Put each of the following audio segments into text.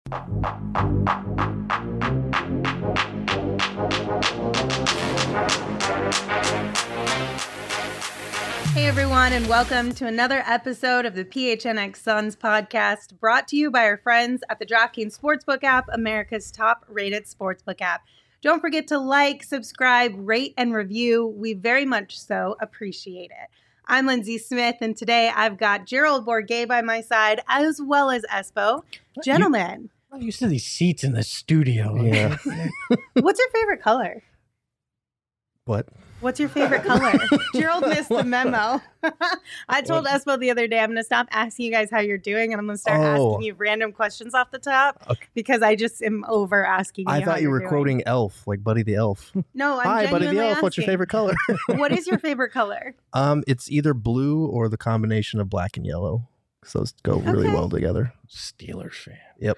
Hey everyone, and welcome to another episode of the PHNX Suns podcast, brought to you by our friends at the DraftKings Sportsbook app, America's top-rated sportsbook app. Don't forget to like, subscribe, rate, and review. We very much so appreciate it. I'm Lindsay Smith, and today I've got Gerald Bourguet by my side, as well as Espo. Gentlemen. I'm used to these seats in the studio. Yeah. What's your favorite color? What? What's your favorite color? Gerald missed the memo. I told Espo the other day, I'm going to stop asking you guys how you're doing, and I'm going to start asking you random questions off the top because I just am over asking you. I thought you were quoting Elf, like Buddy the Elf. No, I'm Hi, Buddy the Elf. asking. What's your favorite color? What is your favorite color? It's either blue or the combination of black and yellow. So those go really well together. Steelers fan. Yep.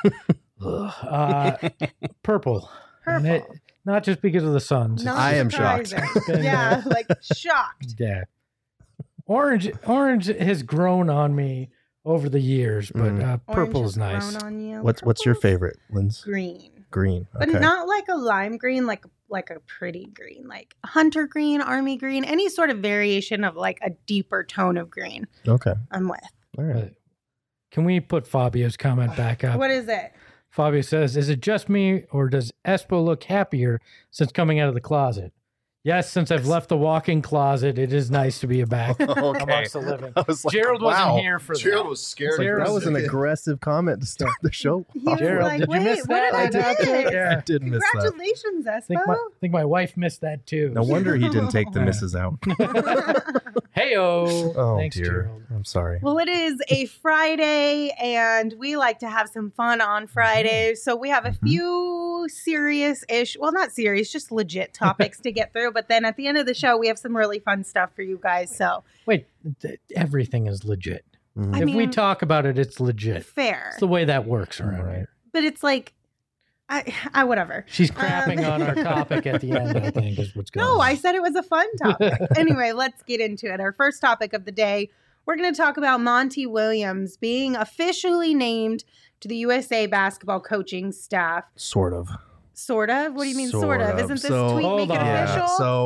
Purple. Purple. And not just because of the Suns. Not I am shocked. surprising. Yeah, like shocked. Yeah. Orange has grown on me over the years, but purple Orange is has nice. grown on you. What's your Purple's favorite, Linz? Green. Green. But Okay. not like a lime green, like a pretty green, like hunter green, army green, any sort of variation of like a deeper tone of green. Okay. I'm with. All right. Can we put Fabio's comment back up? What is it? Fabio says, is it just me or does Espo look happier since coming out of the closet? Yes, since I've left the walk-in closet, it is nice to be back amongst the living. I was like, Gerald wow. wasn't here for Gerald that. was scared. That was an aggressive comment to start the show. He was Gerald, like, did you wait, miss what that? did I miss? Yeah. I did miss that. Congratulations, I Espo. think my wife missed that too. No wonder he didn't take the Yeah. misses out. Hey-o. Oh, Thanks, dear. Gerald. I'm sorry. Well, it is a Friday, and we like to have some fun on Fridays. So we have a few serious-ish, well, not serious, just legit topics to get through. But then at the end of the show, we have some really fun stuff for you guys. So Wait, everything is legit. I If we mean, talk about it, it's legit. fair, It's the way that works around Right. here. but it's like, I whatever. She's crapping on our topic at the end, I think, is what's going on. No, I said it was a fun topic. Anyway, let's get into it. Our first topic of the day, we're going to talk about Monty Williams being officially named to the USA basketball coaching staff. Sort of. Sort of? What do you mean sort of? Isn't this So- tweet Hold make it on. official?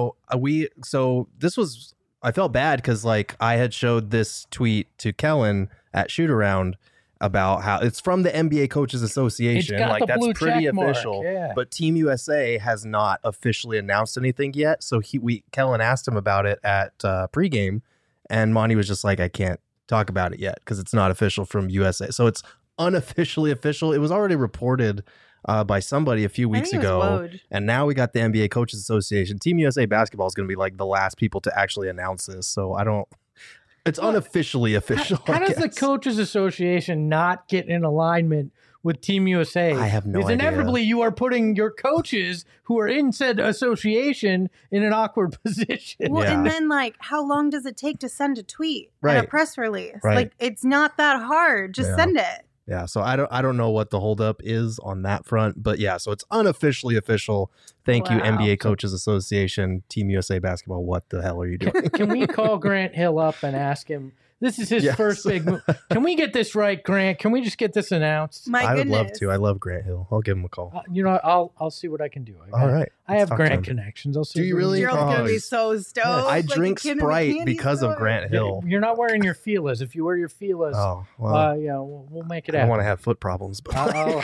So this was, I felt bad because like I had showed this tweet to Kellen at Shoot Around about how it's from the NBA Coaches Association. It's got Like the that's blue pretty check mark, official. yeah. But Team USA has not officially announced anything yet. So Kellen asked him about it at pregame, and Monty was just like, I can't talk about it yet because it's not official from USA. So it's unofficially official. It was already reported by somebody a few weeks think it was ago. Woj. And now we got the NBA Coaches Association. Team USA basketball is going to be like the last people to actually announce this. So it's unofficially official. How I does the guess. Coaches Association not get in alignment with Team USA? I have no because idea. inevitably you are putting your coaches who are in said association in an awkward position. Well, Yeah. and then like, how long does it take to send a tweet and Right. a press release? Right. Like, it's not that hard. Just Yeah. send it. Yeah, so I don't know what the holdup is on that front, but yeah, so it's unofficially official. Thank you, Wow. NBA Coaches Association, Team USA basketball. What the hell are you doing? Can we call Grant Hill up and ask him? This is his Yes. first big move. Can we get this right, Grant? Can we just get this announced? My I would goodness. love to. I love Grant Hill. I'll give him a call. I'll see what I can do. All right. I have Let's talk to Grant him. connections. I'll see. Do if you we can really? do Gerald's it. going to Oh, be so stoked. I like a drink kid in a Sprite candy because of store. Grant Hill. You're not wearing your feelers. If you wear your feelers, Oh, well, yeah, we'll make it I don't happen. want to have foot problems, but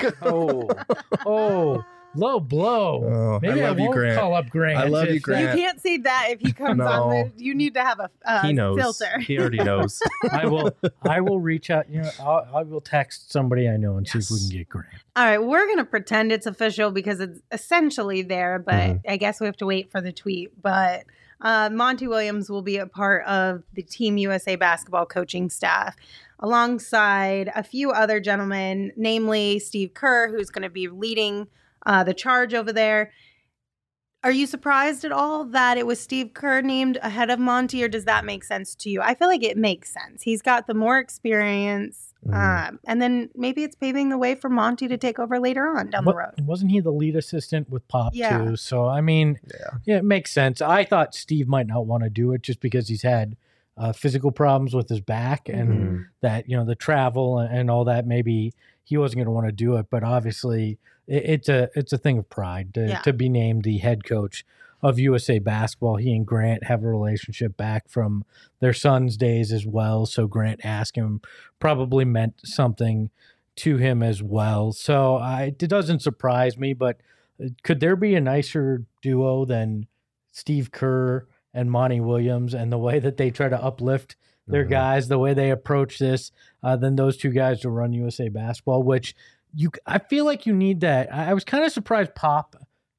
Low blow. Oh, Maybe I love you, won't Grant. call up Grant. I love you, You Grant. can't say that if he comes No. on the. You need to have a he knows. filter. He already knows. I will reach out. I will text somebody I know and see if we can get Grant. All right, we're going to pretend it's official because it's essentially there, but Mhm. I guess we have to wait for the tweet. But Monty Williams will be a part of the Team USA basketball coaching staff alongside a few other gentlemen, namely Steve Kerr, who's going to be leading the charge over there. Are you surprised at all that it was Steve Kerr named ahead of Monty, or does that make sense to you? I feel like it makes sense. He's got the more experience, and then maybe it's paving the way for Monty to take over later on down the road. Wasn't he the lead assistant with Pop Yeah. too? So I mean, yeah, it makes sense. I thought Steve might not want to do it just because he's had physical problems with his back, and that, the travel and all that, maybe he wasn't going to want to do it. But obviously it's a thing of pride to be named the head coach of USA Basketball. He and Grant have a relationship back from their son's days as well. So Grant asking him probably meant something to him as well. So it doesn't surprise me, but could there be a nicer duo than Steve Kerr and Monty Williams, and the way that they try to uplift their guys, the way they approach this, than those two guys to run USA Basketball, which I feel like you need that. I was kind of surprised Pop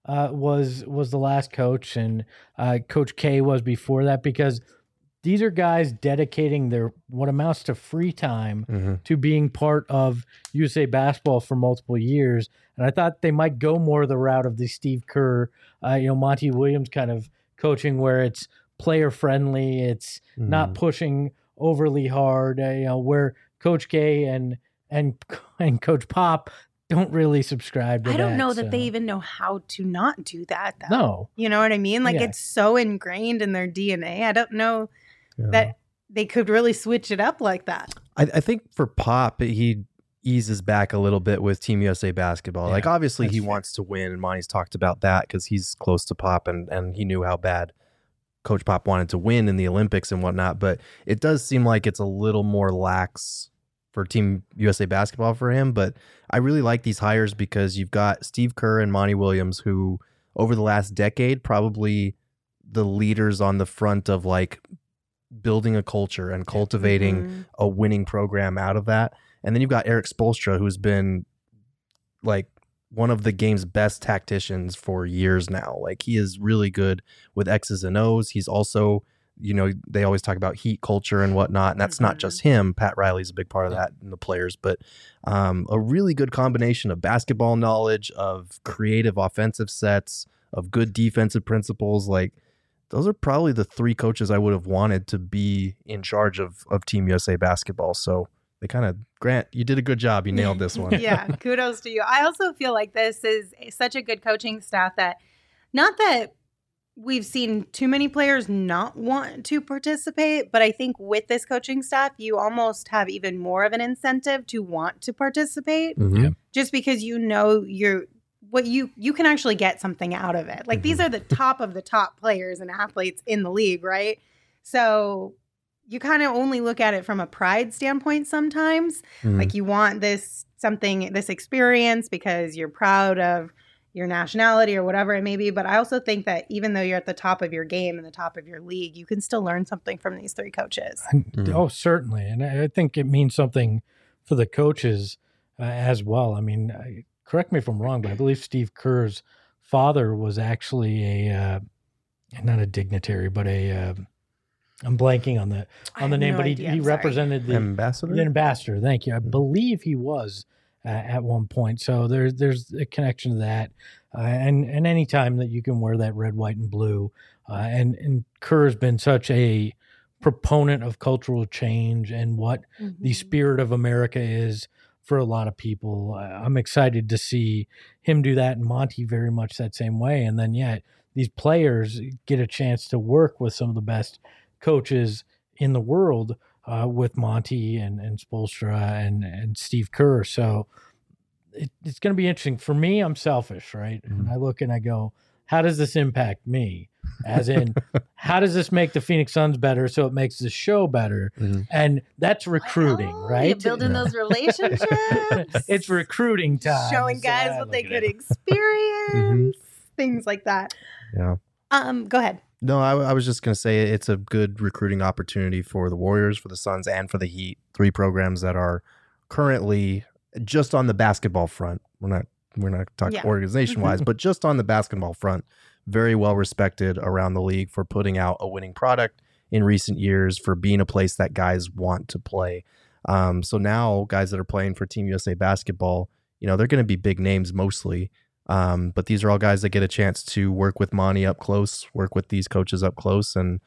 was the last coach, and Coach K was before that, because these are guys dedicating their what amounts to free time to being part of USA Basketball for multiple years. And I thought they might go more the route of the Steve Kerr, Monty Williams kind of coaching, where it's player friendly, it's not pushing overly hard. Where Coach K and Coach Pop don't really subscribe to that. I don't know that they even know how to not do that, though. No. You know what I mean? Like, it's so ingrained in their DNA. I don't know that they could really switch it up like that. I think for Pop, he eases back a little bit with Team USA Basketball. Like, obviously he wants to win, and Monty's talked about that because he's close to Pop, and he knew how bad Coach Pop wanted to win in the Olympics and whatnot. But it does seem like it's a little more lax for Team USA Basketball for him. But I really like these hires because you've got Steve Kerr and Monty Williams, who over the last decade, probably the leaders on the front of like building a culture and cultivating a winning program out of that. And then you've got Eric Spoelstra, who's been like one of the game's best tacticians for years now. Like, he is really good with X's and O's. He's also, they always talk about heat culture and whatnot, and that's not just him. Pat Riley's a big part of that and the players, but a really good combination of basketball knowledge, of creative offensive sets, of good defensive principles. Like, those are probably the three coaches I would have wanted to be in charge of Team USA Basketball. So they kind of, Grant, you did a good job. You nailed this one. Yeah, kudos to you. I also feel like this is such a good coaching staff that, not that we've seen too many players not want to participate, but I think with this coaching staff, you almost have even more of an incentive to want to participate, just because you can actually get something out of it. Like, these are the top of the top players and athletes in the league, right? So you kind of only look at it from a pride standpoint sometimes. Like, you want this experience because you're proud of your nationality or whatever it may be. But I also think that even though you're at the top of your game and the top of your league, you can still learn something from these three coaches. Oh, certainly. And I think it means something for the coaches as well. I mean, correct me if I'm wrong, but I believe Steve Kerr's father was actually not a dignitary, but I'm blanking on the name, but he represented the ambassador. The ambassador. Thank you. I believe he was at one point. So there's a connection to that, and any time that you can wear that red, white, and blue, and Kerr has been such a proponent of cultural change and what the spirit of America is for a lot of people. I'm excited to see him do that, and Monty very much that same way. And then these players get a chance to work with some of the best coaches in the world, with Monty and Spoelstra and Steve Kerr. So it's going to be interesting. For me, I'm selfish, right? And I look and I go, how does this impact me? As in, how does this make the Phoenix Suns better so it makes the show better? And that's recruiting, right? You're building those relationships. It's recruiting time. Showing guys what they could experience, things like that. Yeah. Go ahead. No, I was just going to say it's a good recruiting opportunity for the Warriors, for the Suns, and for the Heat. Three programs that are currently just on the basketball front. We're not talking organization-wise, but just on the basketball front, very well respected around the league for putting out a winning product in recent years, for being a place that guys want to play. So now guys that are playing for Team USA Basketball, they're going to be big names mostly. But these are all guys that get a chance to work with Monty up close, work with these coaches up close. And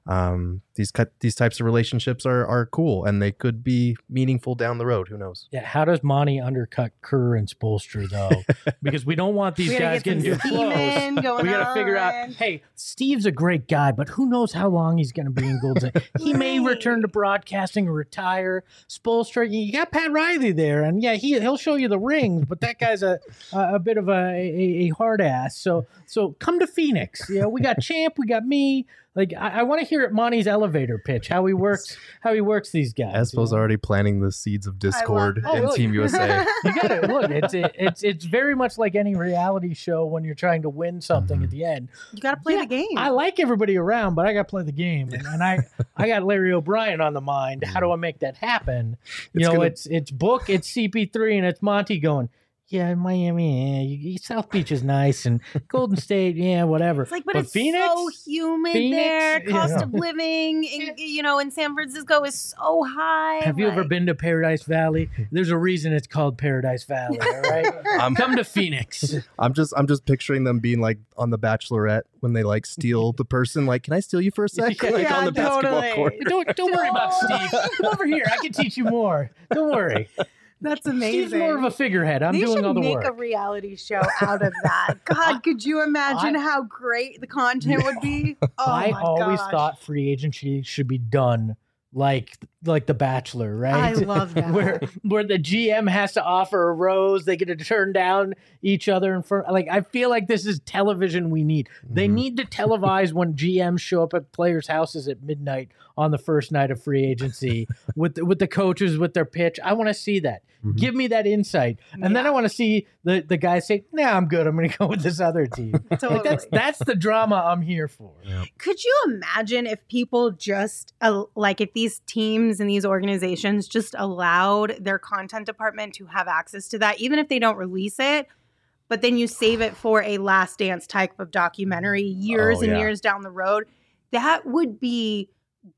these types of relationships are cool, and they could be meaningful down the road. Who knows? Yeah, how does Monty undercut Kerr and Spoelstra though? Because we don't want these guys getting too close. We got to figure out. Hey, Steve's a great guy, but who knows how long he's going to be in Golden State? He may return to broadcasting or retire. Spoelstra, you got Pat Riley there, and yeah, he'll show you the rings, but that guy's a bit of a hard ass. So come to Phoenix. You know, we got Champ, we got me. Like I want to hear at Monty's elevator pitch how he works these guys. Espo's already planting the seeds of discord in Team USA. You got it. Look, it's very much like any reality show when you're trying to win something at the end. You got to play the game. I like everybody around, but I got to play the game, and I got Larry O'Brien on the mind. How do I make that happen? It's Book, it's CP3, and it's Monty going, yeah, Miami, yeah, South Beach is nice, and Golden State, yeah, whatever. It's like, but it's Phoenix, so humid there. Cost of living, in San Francisco is so high. Have you ever been to Paradise Valley? There's a reason it's called Paradise Valley. All right, come to Phoenix. I'm just picturing them being like on The Bachelorette when they like steal the person. Like, can I steal you for a sec? Like on the basketball court. Don't worry about Steve. Come over here. I can teach you more. Don't worry. That's amazing. Steve's more of a figurehead. I'm doing all the work. They should make a reality show out of that. God, could you imagine how great the content would be? Oh, I always thought free agency should be done like The Bachelor, right? I love that. where the GM has to offer a rose, they get to turn down each other in front. Like, I feel like this is television we need. They need to televise when GMs show up at players' houses at midnight on the first night of free agency with the coaches with their pitch. I want to see that. Give me that insight. And then I want to see the guys say, nah, I'm good. I'm going to go with this other team. Totally. Like that's the drama I'm here for. Yeah. Could you imagine if people just, if these teams and these organizations just allowed their content department to have access to that, even if they don't release it, but then you save it for a Last Dance type of documentary years and years down the road? That would be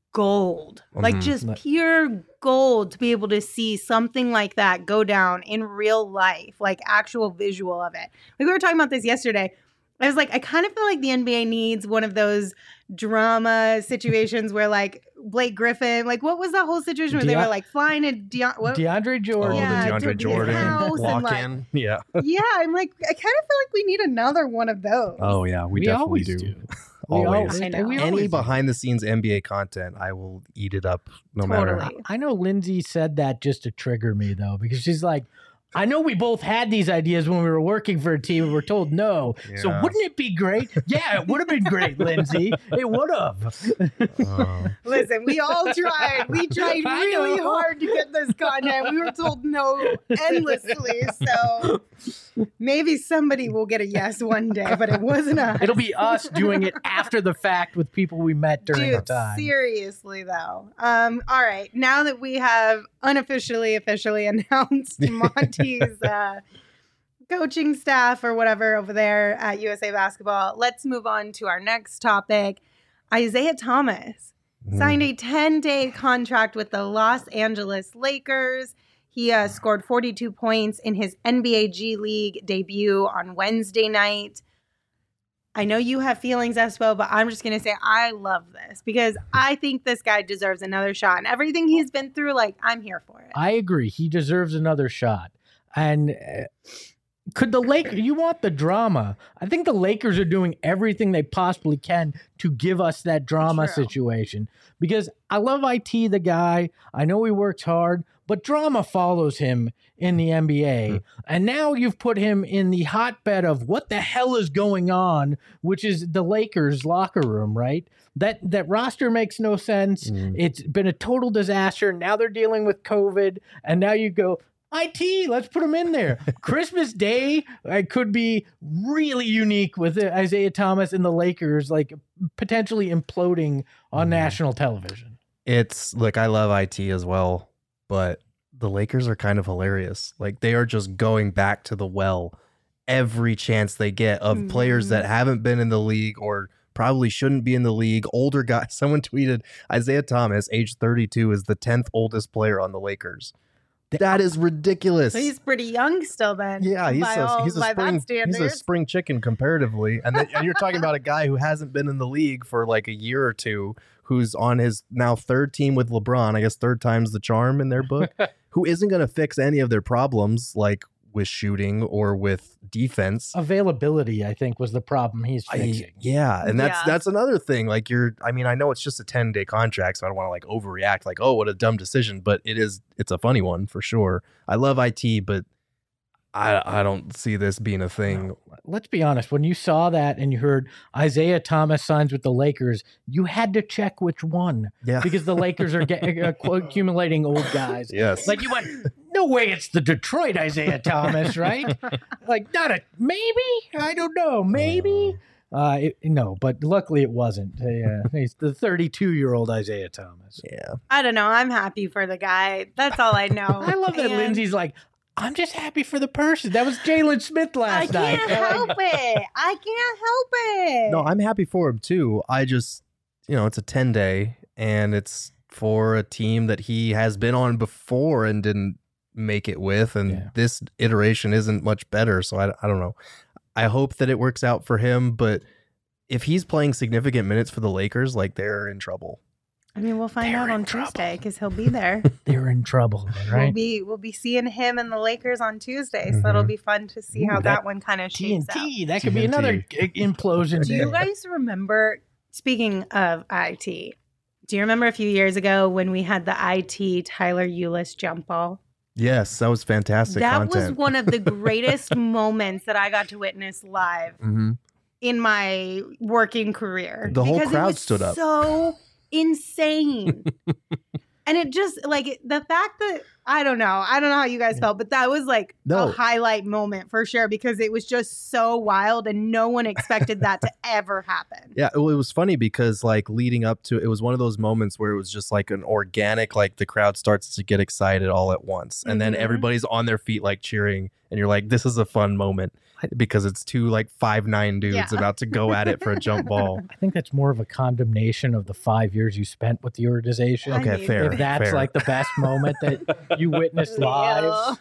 gold, like just pure gold, to be able to see something like that go down in real life, like actual visual of it. Like, we were talking about this yesterday. I was like, I kind of feel like the NBA needs one of those drama situations where, like, Blake Griffin, like, what was that whole situation where they were like flying to DeAndre Jordan? The DeAndre Jordan walk in. Yeah, I'm like, I kind of feel like we need another one of those. Oh yeah, we definitely do. Always. Any behind the scenes NBA content, I will eat it up no matter. I know Lindsay said that just to trigger me, though, because she's like, I know we both had these ideas when we were working for a team and we're told no. Yeah. So wouldn't it be great? Yeah, it would have been great, Lindsay. It would have. Listen, we all tried. We tried really hard to get this content. We were told no endlessly. So maybe somebody will get a yes one day, but it wasn't us. It'll be us doing it after the fact with people we met during the time. Seriously, though. All right. Now that we have officially announced Monty's coaching staff or whatever over there at USA Basketball, let's move on to our next topic. Isaiah Thomas signed a 10-day contract with the Los Angeles Lakers. He scored 42 points in his NBA G League debut on Wednesday night. I know you have feelings, Espo, but I'm just going to say I love this because I think this guy deserves another shot. And everything he's been through, like, I'm here for it. I agree. He deserves another shot. And could the Lakers, you want the drama. I think the Lakers are doing everything they possibly can to give us that drama situation. Because I love IT, the guy. I know he works hard, but drama follows him in the NBA. And now you've put him in the hotbed of what the hell is going on, which is the Lakers locker room, right? That roster makes no sense. It's been a total disaster. Now they're dealing with COVID. And now you go, IT, let's put him in there. Christmas Day could be really unique with Isaiah Thomas and the Lakers, like potentially imploding on national television. Look, I love IT as well, but the Lakers are kind of hilarious. Like, they are just going back to the well every chance they get of players that haven't been in the league or probably shouldn't be in the league. Older guys. Someone tweeted Isaiah Thomas, age 32, is the 10th oldest player on the Lakers. That is ridiculous. So he's pretty young still then. Yeah, he's a spring chicken comparatively. And you're talking about a guy who hasn't been in the league for like a year or two, who's on his now third team with LeBron, I guess third time's the charm in their book, who isn't going to fix any of their problems, like with shooting or with defense. Availability, I think, was the problem he's facing. And that's another thing. Like I know it's just a 10-day contract, so I don't want to like overreact like, oh, what a dumb decision, but it's a funny one for sure. I love IT, but I don't see this being a thing. No. Let's be honest. When you saw that and you heard Isaiah Thomas signs with the Lakers, you had to check which one. Yeah. Because the Lakers are accumulating old guys. Yes. Like you went, no way it's the Detroit Isaiah Thomas, right? Like, maybe? I don't know. Maybe? No, but luckily it wasn't. He's the 32-year-old Isaiah Thomas. Yeah. I don't know. I'm happy for the guy. That's all I know. I love that Lindsay's like, I'm just happy for the person. That was Jalen Smith last night. I can't help it. No, I'm happy for him too. I just, it's a 10-day and it's for a team that he has been on before and didn't make it with. And this iteration isn't much better. So I don't know. I hope that it works out for him. But if he's playing significant minutes for the Lakers, like they're in trouble. I mean, we'll find out on Tuesday because he'll be there. They're in trouble, right? We'll be seeing him and the Lakers on Tuesday, so that'll be fun to see how that one kind of shapes out. That could be another implosion. Do you guys remember? Speaking of IT, do you remember a few years ago when we had the IT Tyler Ulis jump ball? Yes, that was fantastic. That was one of the greatest moments that I got to witness live in my working career. The whole crowd stood up. So insane. And it just like the fact that I don't know how you guys felt, but that was like a highlight moment for sure because it was just so wild and no one expected that to ever happen. Yeah, it was funny because like leading up to it was one of those moments where it was just like an organic, like the crowd starts to get excited all at once and then everybody's on their feet like cheering and you're like, this is a fun moment because it's two like 5'9" dudes about to go at it for a jump ball. I think that's more of a condemnation of the 5 years you spent with the organization. Okay, fair. If that's like the best moment that you witnessed live.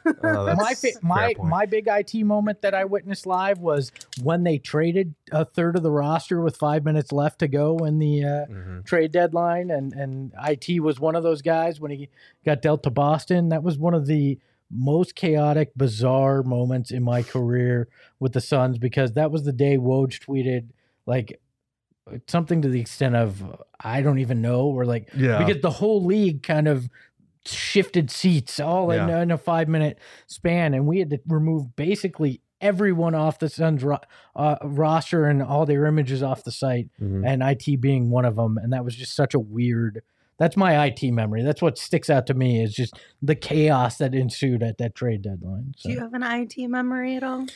My big IT moment that I witnessed live was when they traded a third of the roster with 5 minutes left to go in the trade deadline. And IT was one of those guys when he got dealt to Boston. That was one of the most chaotic, bizarre moments in my career with the Suns because that was the day Woj tweeted like something to the extent of I don't even know or like because the whole league kind of shifted seats all in a 5 minute span and we had to remove basically everyone off the Suns roster and all their images off the site and IT being one of them and that was just such a weird. That's my IT memory. That's what sticks out to me is just the chaos that ensued at that trade deadline. So. Do you have an IT memory at all?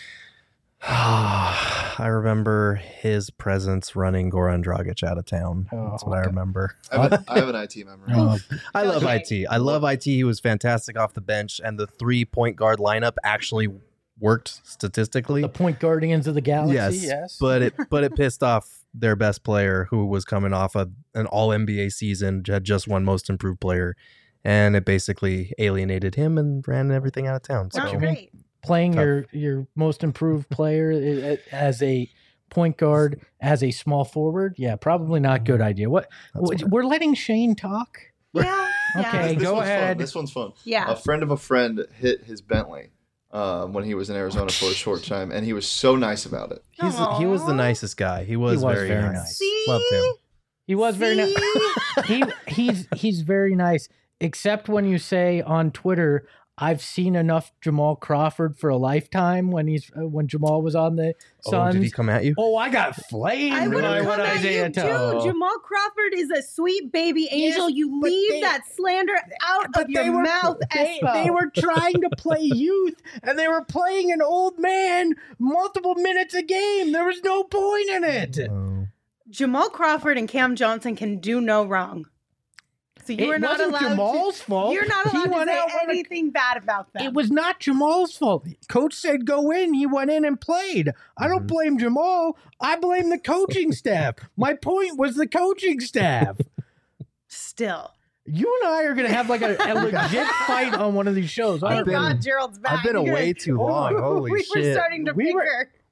I remember his presence running Goran Dragic out of town. That's what I remember. I have an IT memory. I love IT. I love IT. He was fantastic off the bench, and the 3-point guard lineup actually worked statistically. The point guardians of the galaxy, yes. But it pissed off their best player who was coming off an all NBA season, had just won most improved player, and it basically alienated him and ran everything out of town. So great. Playing your most improved player as a point guard, as a small forward, probably not good idea. We're letting Shane talk? Yeah. Okay, go ahead. This one's fun. Yeah. A friend of a friend hit his Bentley when he was in Arizona for a short time, and he was so nice about it. He was the nicest guy. He was very nice. See? Loved him. He was very nice. He's very nice, except when you say on Twitter, I've seen enough Jamal Crawford for a lifetime when Jamal was on the Suns. Did he come at you? Oh, I got flamed. I would have come at you too. Jamal Crawford is a sweet baby angel. You leave that slander out of your mouth, Espo. They were trying to play youth, and they were playing an old man multiple minutes a game. There was no point in it. Jamal Crawford and Cam Johnson can do no wrong. So you are not allowed Jamal's fault. You're not allowed to say anything bad about them. It was not Jamal's fault. Coach said go in. He went in and played. I don't blame Jamal. I blame the coaching staff. My point was the coaching staff. Still. You and I are going to have like a legit fight on one of these shows. Thank God Gerald's back. I've been away too long. Holy shit. We were starting to bicker.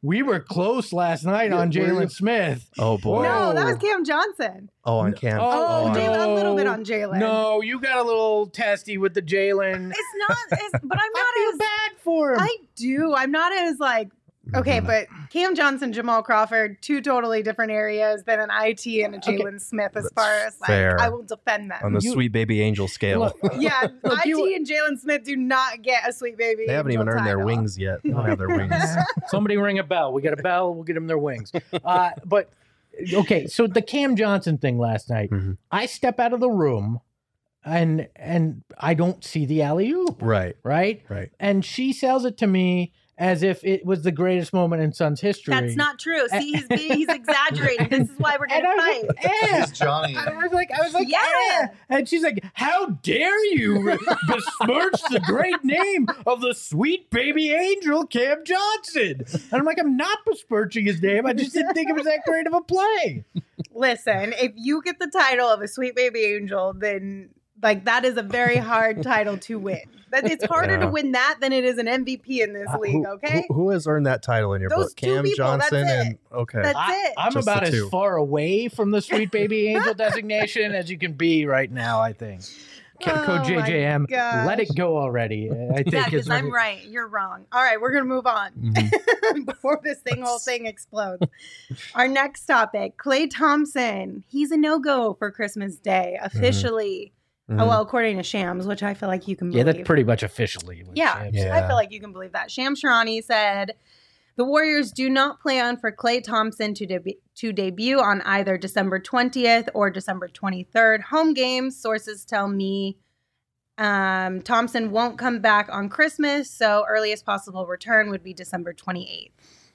we were close last night on Jalen Smith. Oh boy. No, that was Cam Johnson. Oh, on Cam. Oh, Jalen, a little bit on Jalen. No, you got a little testy with the Jalen. It's not, but I'm not I feel bad for him. I do. I'm not as like, okay, but Cam Johnson, Jamal Crawford, two totally different areas than an IT and a Jalen Smith as far as like, fair. I will defend them. On the sweet baby angel scale. Look, Yeah, IT and Jalen Smith do not get a sweet baby. They haven't even earned their wings yet. They don't have their wings. Somebody ring a bell. We get a bell. We'll get them their wings. But okay, so the Cam Johnson thing last night. I step out of the room, and I don't see the alley-oop. Right. Right. And she sells it to me as if it was the greatest moment in Suns history. That's not true. See, he's exaggerating. This is why we're going to fight. He's Johnny. I was like, Yeah. And she's like, how dare you besmirch the great name of the sweet baby angel, Cam Johnson? And I'm like, I'm not besmirching his name. I just didn't think it was that great of a play. Listen, if you get the title of a sweet baby angel, then like that is a very hard title to win. It's harder to win that than it is an MVP in this league, okay? Who has earned that title in your Those book? two Cam people, Johnson that's and okay. That's it. I'm Just about the as two. far away from the sweet baby angel designation as you can be right now, I think. Code Oh, JJM, my gosh. let it go already. I think Yeah, is because what I'm right. You're wrong. All right, we're going to move on before this whole thing explodes. Our next topic, Klay Thompson. He's a no-go for Christmas Day, officially. Oh, well, according to Shams, which I feel like you can believe. Yeah, that's pretty much officially. what Yeah, Shams said. I feel like you can believe that. Shams Charania said, the Warriors do not plan for Klay Thompson to debut on either December 20th or December 23rd. Home games, sources tell me Thompson won't come back on Christmas, so earliest possible return would be December 28th.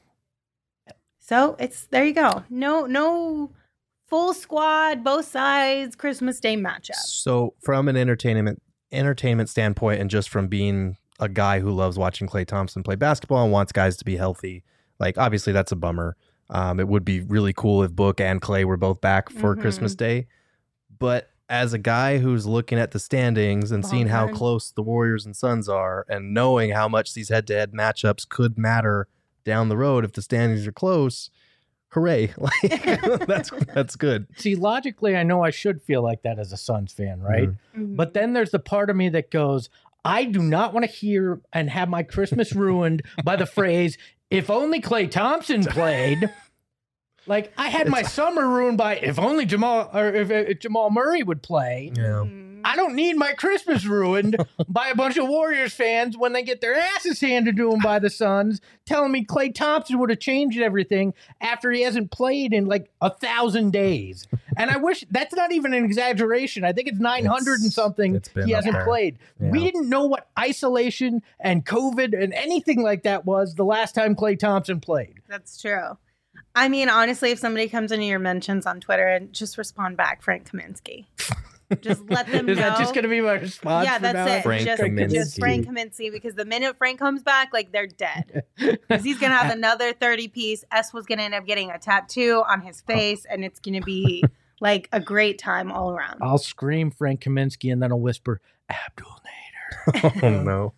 So there you go. No full squad, both sides, Christmas Day matchup. So from an entertainment standpoint, and just from being a guy who loves watching Klay Thompson play basketball and wants guys to be healthy, like obviously that's a bummer. It would be really cool if Book and Klay were both back for Christmas Day. But as a guy who's looking at the standings and seeing how close the Warriors and Suns are, and knowing how much these head-to-head matchups could matter down the road if the standings are close, hooray. Like that's good. See, logically, I know I should feel like that as a Suns fan, right? But then there's the part of me that goes, I do not want to hear and have my Christmas ruined by the phrase, if only Klay Thompson played. Like, I had my summer ruined by if only if Jamal Murray would play. Yeah. I don't need my Christmas ruined by a bunch of Warriors fans when they get their asses handed to them by the Suns, telling me Klay Thompson would have changed everything after he hasn't played in like 1,000 days. And I wish that's not even an exaggeration. I think it's 900 and something he hasn't played. Yeah. We didn't know what isolation and COVID and anything like that was the last time Klay Thompson played. That's true. I mean, honestly, if somebody comes into your mentions on Twitter and just respond back, Frank Kaminsky. Just let them know. Is that just going to be my response? Yeah, that's it. Frank Kaminsky. Just Frank Kaminsky, because the minute Frank comes back, like, they're dead. Because he's going to have another 30-piece. S was going to end up getting a tattoo on his face, and it's going to be like a great time all around. I'll scream Frank Kaminsky, and then I'll whisper, Abdul Nader. Oh, no.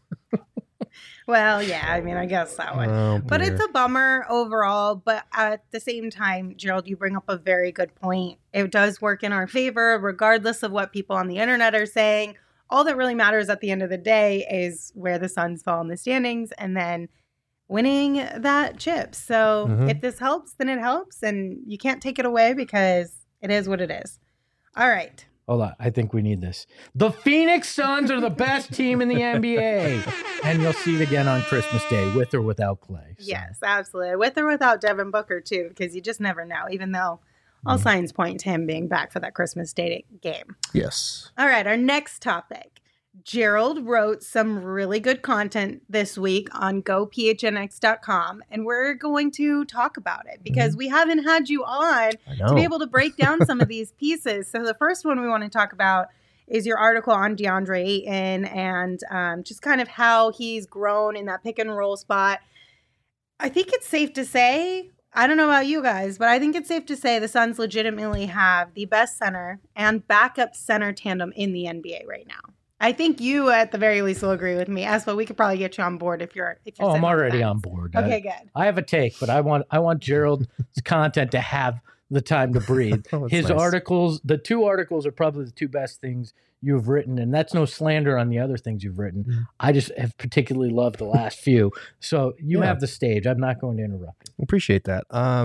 Well, yeah, I mean, I guess that one. Oh, but dear. it's a bummer overall. But at the same time, Gerald, you bring up a very good point. It does work in our favor, regardless of what people on the internet are saying. All that really matters at the end of the day is where the Suns fall in the standings and then winning that chip. So if this helps, then it helps. And you can't take it away because it is what it is. All right. Hold on. I think we need this. The Phoenix Suns are the best team in the NBA. And you'll see it again on Christmas Day, with or without Klay. So. Yes, absolutely. With or without Devin Booker, too, because you just never know, even though all signs point to him being back for that Christmas Day game. Yes. All right, our next topic. Gerald wrote some really good content this week on gophnx.com, and we're going to talk about it because we haven't had you on to be able to break down some of these pieces. So the first one we want to talk about is your article on DeAndre Ayton and just kind of how he's grown in that pick and roll spot. I think it's safe to say, I don't know about you guys, but I think it's safe to say the Suns legitimately have the best center and backup center tandem in the NBA right now. I think you, at the very least, will agree with me. Espo, we could probably get you on board if you're. Oh, I'm already on board. Okay, good. I have a take, but I want Gerald's content to have the time to breathe. His nice. articles, the 2 articles, are probably the 2 best things you've written, and that's no slander on the other things you've written. Mm-hmm. I just have particularly loved the last few. So you have the stage. I'm not going to interrupt you. Appreciate that.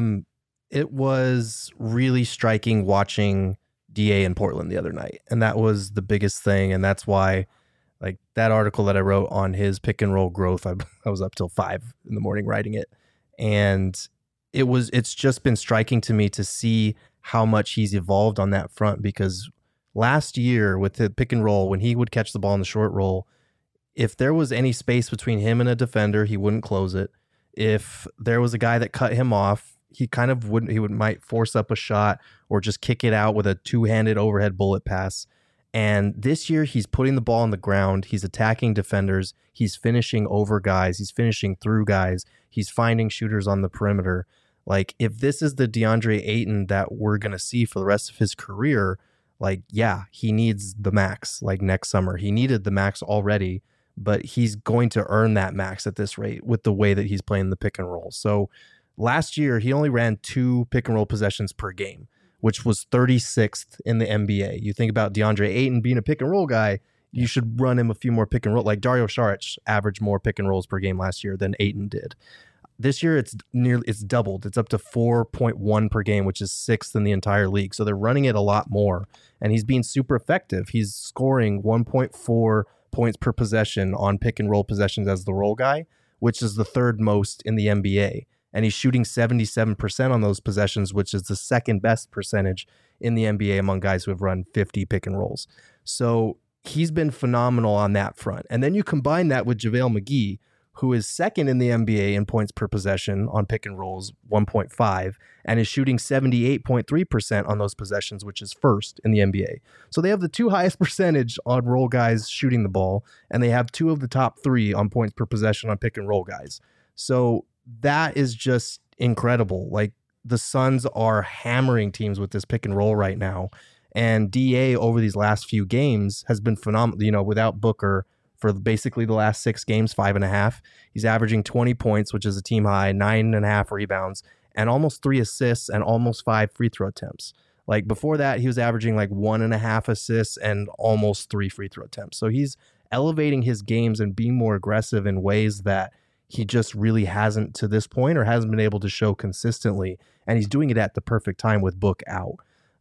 It was really striking watching DA in Portland the other night, and that was the biggest thing, and that's why, like, that article that I wrote on his pick and roll growth, I was up till 5 in the morning writing it, and it's just been striking to me to see how much he's evolved on that front, because last year with the pick and roll, when he would catch the ball in the short roll, if there was any space between him and a defender, he wouldn't close it. If there was a guy that cut him off, he kind of wouldn't. He might force up a shot or just kick it out with a 2-handed overhead bullet pass. And this year, he's putting the ball on the ground. He's attacking defenders. He's finishing over guys. He's finishing through guys. He's finding shooters on the perimeter. Like, if this is the DeAndre Ayton that we're going to see for the rest of his career, like, yeah, he needs the max, like, next summer. He needed the max already, but he's going to earn that max at this rate with the way that he's playing the pick and roll. So last year, he only ran 2 pick and roll possessions per game, which was 36th in the NBA. You think about DeAndre Ayton being a pick and roll guy, you should run him a few more pick and roll. Like, Dario Saric averaged more pick and rolls per game last year than Ayton did. This year, it's doubled. It's up to 4.1 per game, which is 6th in the entire league. So they're running it a lot more, and he's being super effective. He's scoring 1.4 points per possession on pick and roll possessions as the roll guy, which is the 3rd most in the NBA. And he's shooting 77% on those possessions, which is the 2nd best percentage in the NBA among guys who have run 50 pick and rolls. So he's been phenomenal on that front. And then you combine that with JaVale McGee, who is 2nd in the NBA in points per possession on pick and rolls, 1.5, and is shooting 78.3% on those possessions, which is 1st in the NBA. So they have the 2 highest percentage on roll guys shooting the ball, and they have 2 of the top 3 on points per possession on pick and roll guys. So that is just incredible. Like, the Suns are hammering teams with this pick and roll right now. And DA over these last few games has been phenomenal. You know, without Booker for basically the last 6 games, 5.5, he's averaging 20 points, which is a team high, 9.5 rebounds, and almost 3 assists and almost 5 free throw attempts. Like, before that, he was averaging like 1.5 assists and almost 3 free throw attempts. So he's elevating his games and being more aggressive in ways that he just really hasn't to this point, or hasn't been able to show consistently. And he's doing it at the perfect time with Book out.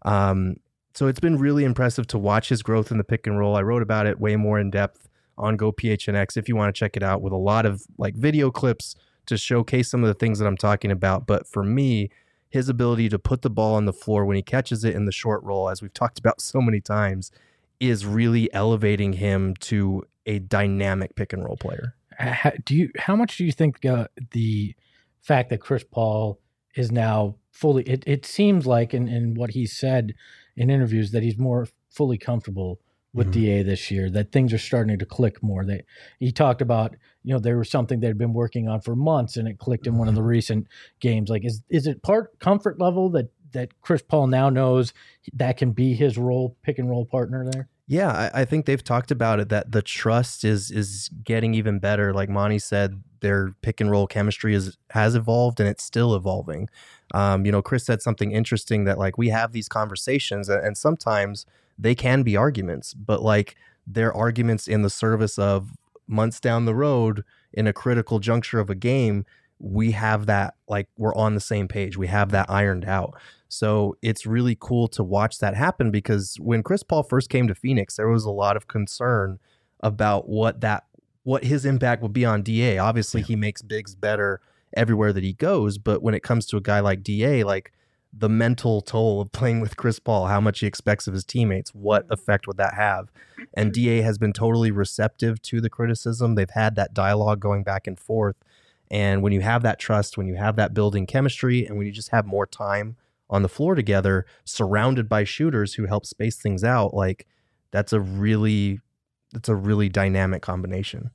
So it's been really impressive to watch his growth in the pick and roll. I wrote about it way more in depth on GoPHNX if you want to check it out, with a lot of like video clips to showcase some of the things that I'm talking about. But for me, his ability to put the ball on the floor when he catches it in the short roll, as we've talked about so many times, is really elevating him to a dynamic pick and roll player. How much do you think the fact that Chris Paul is now fully, it seems like in what he said in interviews that he's more fully comfortable with DA this year, that things are starting to click more. He talked about, there was something they'd been working on for months and it clicked in one of the recent games. Like, is it part comfort level that Chris Paul now knows that can be his pick and roll partner there? Yeah, I think they've talked about it, that the trust is getting even better. Like Monty said, their pick and roll chemistry has evolved, and it's still evolving. Chris said something interesting, that like, we have these conversations and sometimes they can be arguments, but like, they're arguments in the service of months down the road in a critical juncture of a game. We have that, like, we're on the same page. We have that ironed out. So it's really cool to watch that happen, because when Chris Paul first came to Phoenix, there was a lot of concern about what his impact would be on DA. Obviously, he makes bigs better everywhere that he goes, but when it comes to a guy like DA, like, the mental toll of playing with Chris Paul, how much he expects of his teammates, what effect would that have? And DA has been totally receptive to the criticism. They've had that dialogue going back and forth. And when you have that trust, when you have that building chemistry, and when you just have more time on the floor together, surrounded by shooters who help space things out, like, that's a really dynamic combination.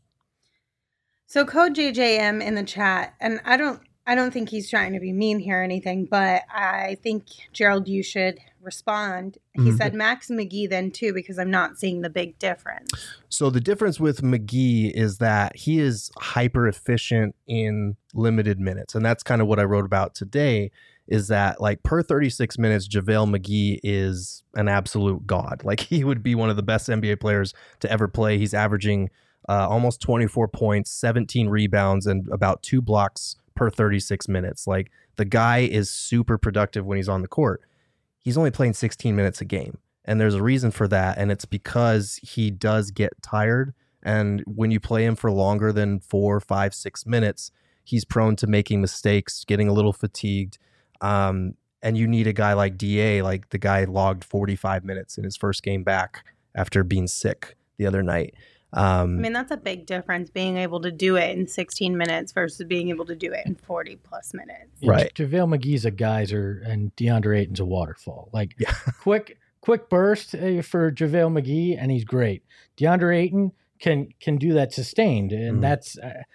So Code JJM in the chat, and I don't think he's trying to be mean here or anything, but I think, Gerald, you should respond. He said Max McGee then too, because I'm not seeing the big difference. So the difference with McGee is that he is hyper efficient in limited minutes. And that's kind of what I wrote about today, is that like per 36 minutes, JaVale McGee is an absolute god. Like he would be one of the best NBA players to ever play. He's averaging almost 24 points, 17 rebounds, and about 2 blocks per 36 minutes. Like the guy is super productive when he's on the court. He's only playing 16 minutes a game. And there's a reason for that. And it's because he does get tired. And when you play him for longer than 4, 5, 6 minutes, he's prone to making mistakes, getting a little fatigued. And you need a guy like DA, like the guy logged 45 minutes in his first game back after being sick the other night. I mean, that's a big difference, being able to do it in 16 minutes versus being able to do it in 40 plus minutes. Right. JaVale McGee's a geyser and DeAndre Ayton's a waterfall. Like quick burst for JaVale McGee, and he's great. DeAndre Ayton can do that sustained, and that's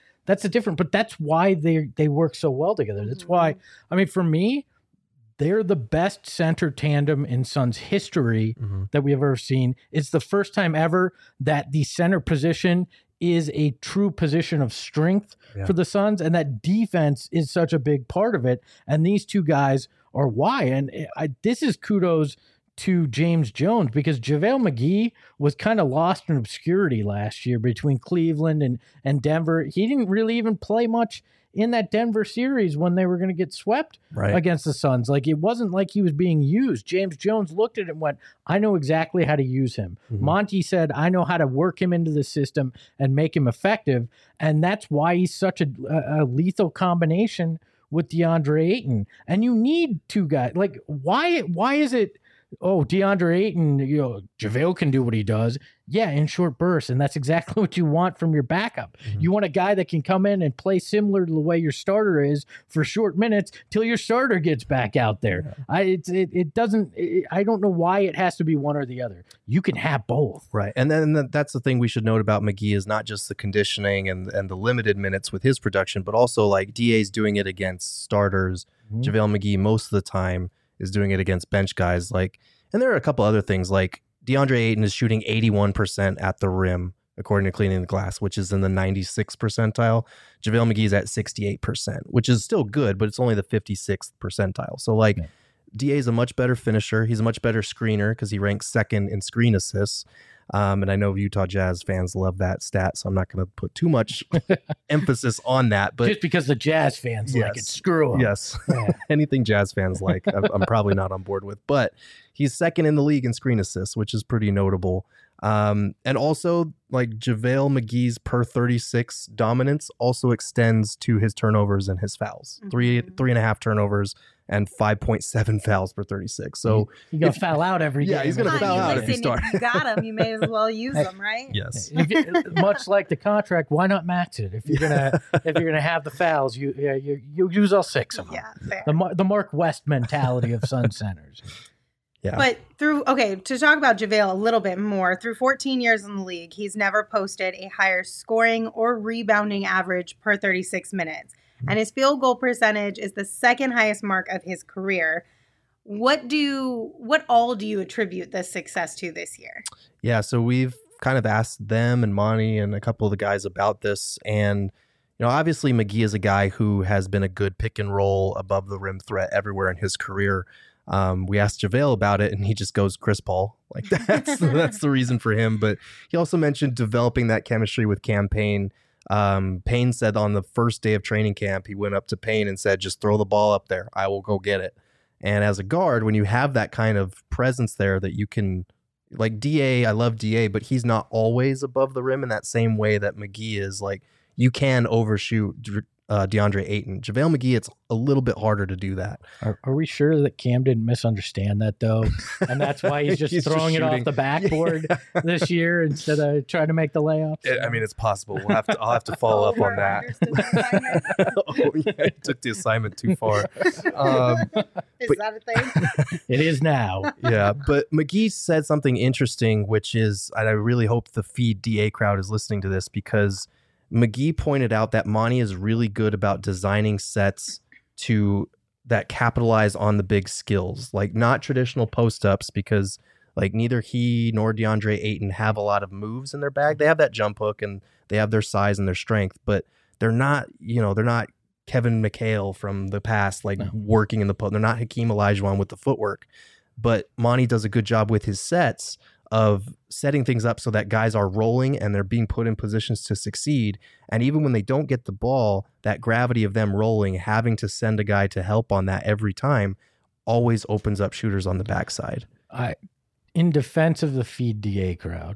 a different. But that's why they work so well together. That's why. I mean, for me, they're the best center tandem in Suns history that we've ever seen. It's the first time ever that the center position is a true position of strength for the Suns, and that defense is such a big part of it. And these two guys are why. And this is kudos to James Jones, because JaVale McGee was kind of lost in obscurity last year between Cleveland and Denver. He didn't really even play much in that Denver series when they were going to get swept against the Suns. Like, it wasn't like he was being used. James Jones looked at it and went, I know exactly how to use him. Monty said, I know how to work him into the system and make him effective. And that's why he's such a lethal combination with DeAndre Ayton. And you need two guys. Like, why is it, DeAndre Ayton, JaVale can do what he does. Yeah, in short bursts. And that's exactly what you want from your backup. You want a guy that can come in and play similar to the way your starter is for short minutes till your starter gets back out there. I don't know why it has to be one or the other. You can have both. Right. And then that's the thing we should note about McGee, is not just the conditioning and the limited minutes with his production, but also like DA's doing it against starters. JaVale McGee most of the time is doing it against bench guys. Like, and there are a couple other things, like DeAndre Ayton is shooting 81% at the rim, according to Cleaning the Glass, which is in the 96th percentile. JaVale McGee's at 68%, which is still good, but it's only the 56th percentile. So like DA is a much better finisher. He's a much better screener because he ranks second in screen assists. And I know Utah Jazz fans love that stat, so I'm not going to put too much emphasis on that. But just because the Jazz fans like it, screw them. Yes, anything Jazz fans like, I'm probably not on board with. But he's second in the league in screen assists, which is pretty notable. And also, like, JaVale McGee's per 36 dominance also extends to his turnovers and his fouls. 3.5 turnovers and 5.7 fouls per 36. So he's going to foul out every game. Yeah, he's going to foul out if he starts. If you got him, you may as well use them, right? Yes. Much like the contract, why not max it? If you're gonna have the fouls, you use all 6 of them. Yeah, fair. The Mark West mentality of Sun centers. Yeah. But to talk about JaVale a little bit more, through 14 years in the league, he's never posted a higher scoring or rebounding average per 36 minutes. And his field goal percentage is the second highest mark of his career. What all do you attribute this success to this year? Yeah, so we've kind of asked them and Monty and a couple of the guys about this. And, obviously McGee is a guy who has been a good pick and roll above the rim threat everywhere in his career. We asked JaVale about it, and he just goes Chris Paul. Like, that's the reason for him. But he also mentioned developing that chemistry with Cam Payne. Payne said on the first day of training camp, he went up to Payne and said, just throw the ball up there. I will go get it. And as a guard, when you have that kind of presence there that you can, like DA, I love DA, but he's not always above the rim in that same way that McGee is. Like, you can overshoot DeAndre Ayton. JaVale McGee, it's a little bit harder to do that. Are we sure that Cam didn't misunderstand that, though? And that's why he's just throwing it off the backboard this year instead of trying to make the layups? I mean, it's possible. I'll have to follow up on that. He took the assignment too far. Is that a thing? It is now. Yeah, but McGee said something interesting, which is, and I really hope the Feed DA crowd is listening to this, because McGee pointed out that Monty is really good about designing sets to that capitalize on the big skills, like not traditional post-ups, because like neither he nor DeAndre Ayton have a lot of moves in their bag. They have that jump hook and they have their size and their strength, but they're not Kevin McHale from the past, like working in the post. They're not Hakeem Olajuwon with the footwork, but Monty does a good job with his sets of setting things up so that guys are rolling and they're being put in positions to succeed. And even when they don't get the ball, that gravity of them rolling, having to send a guy to help on that every time always opens up shooters on the backside. In defense of the Feed DA crowd,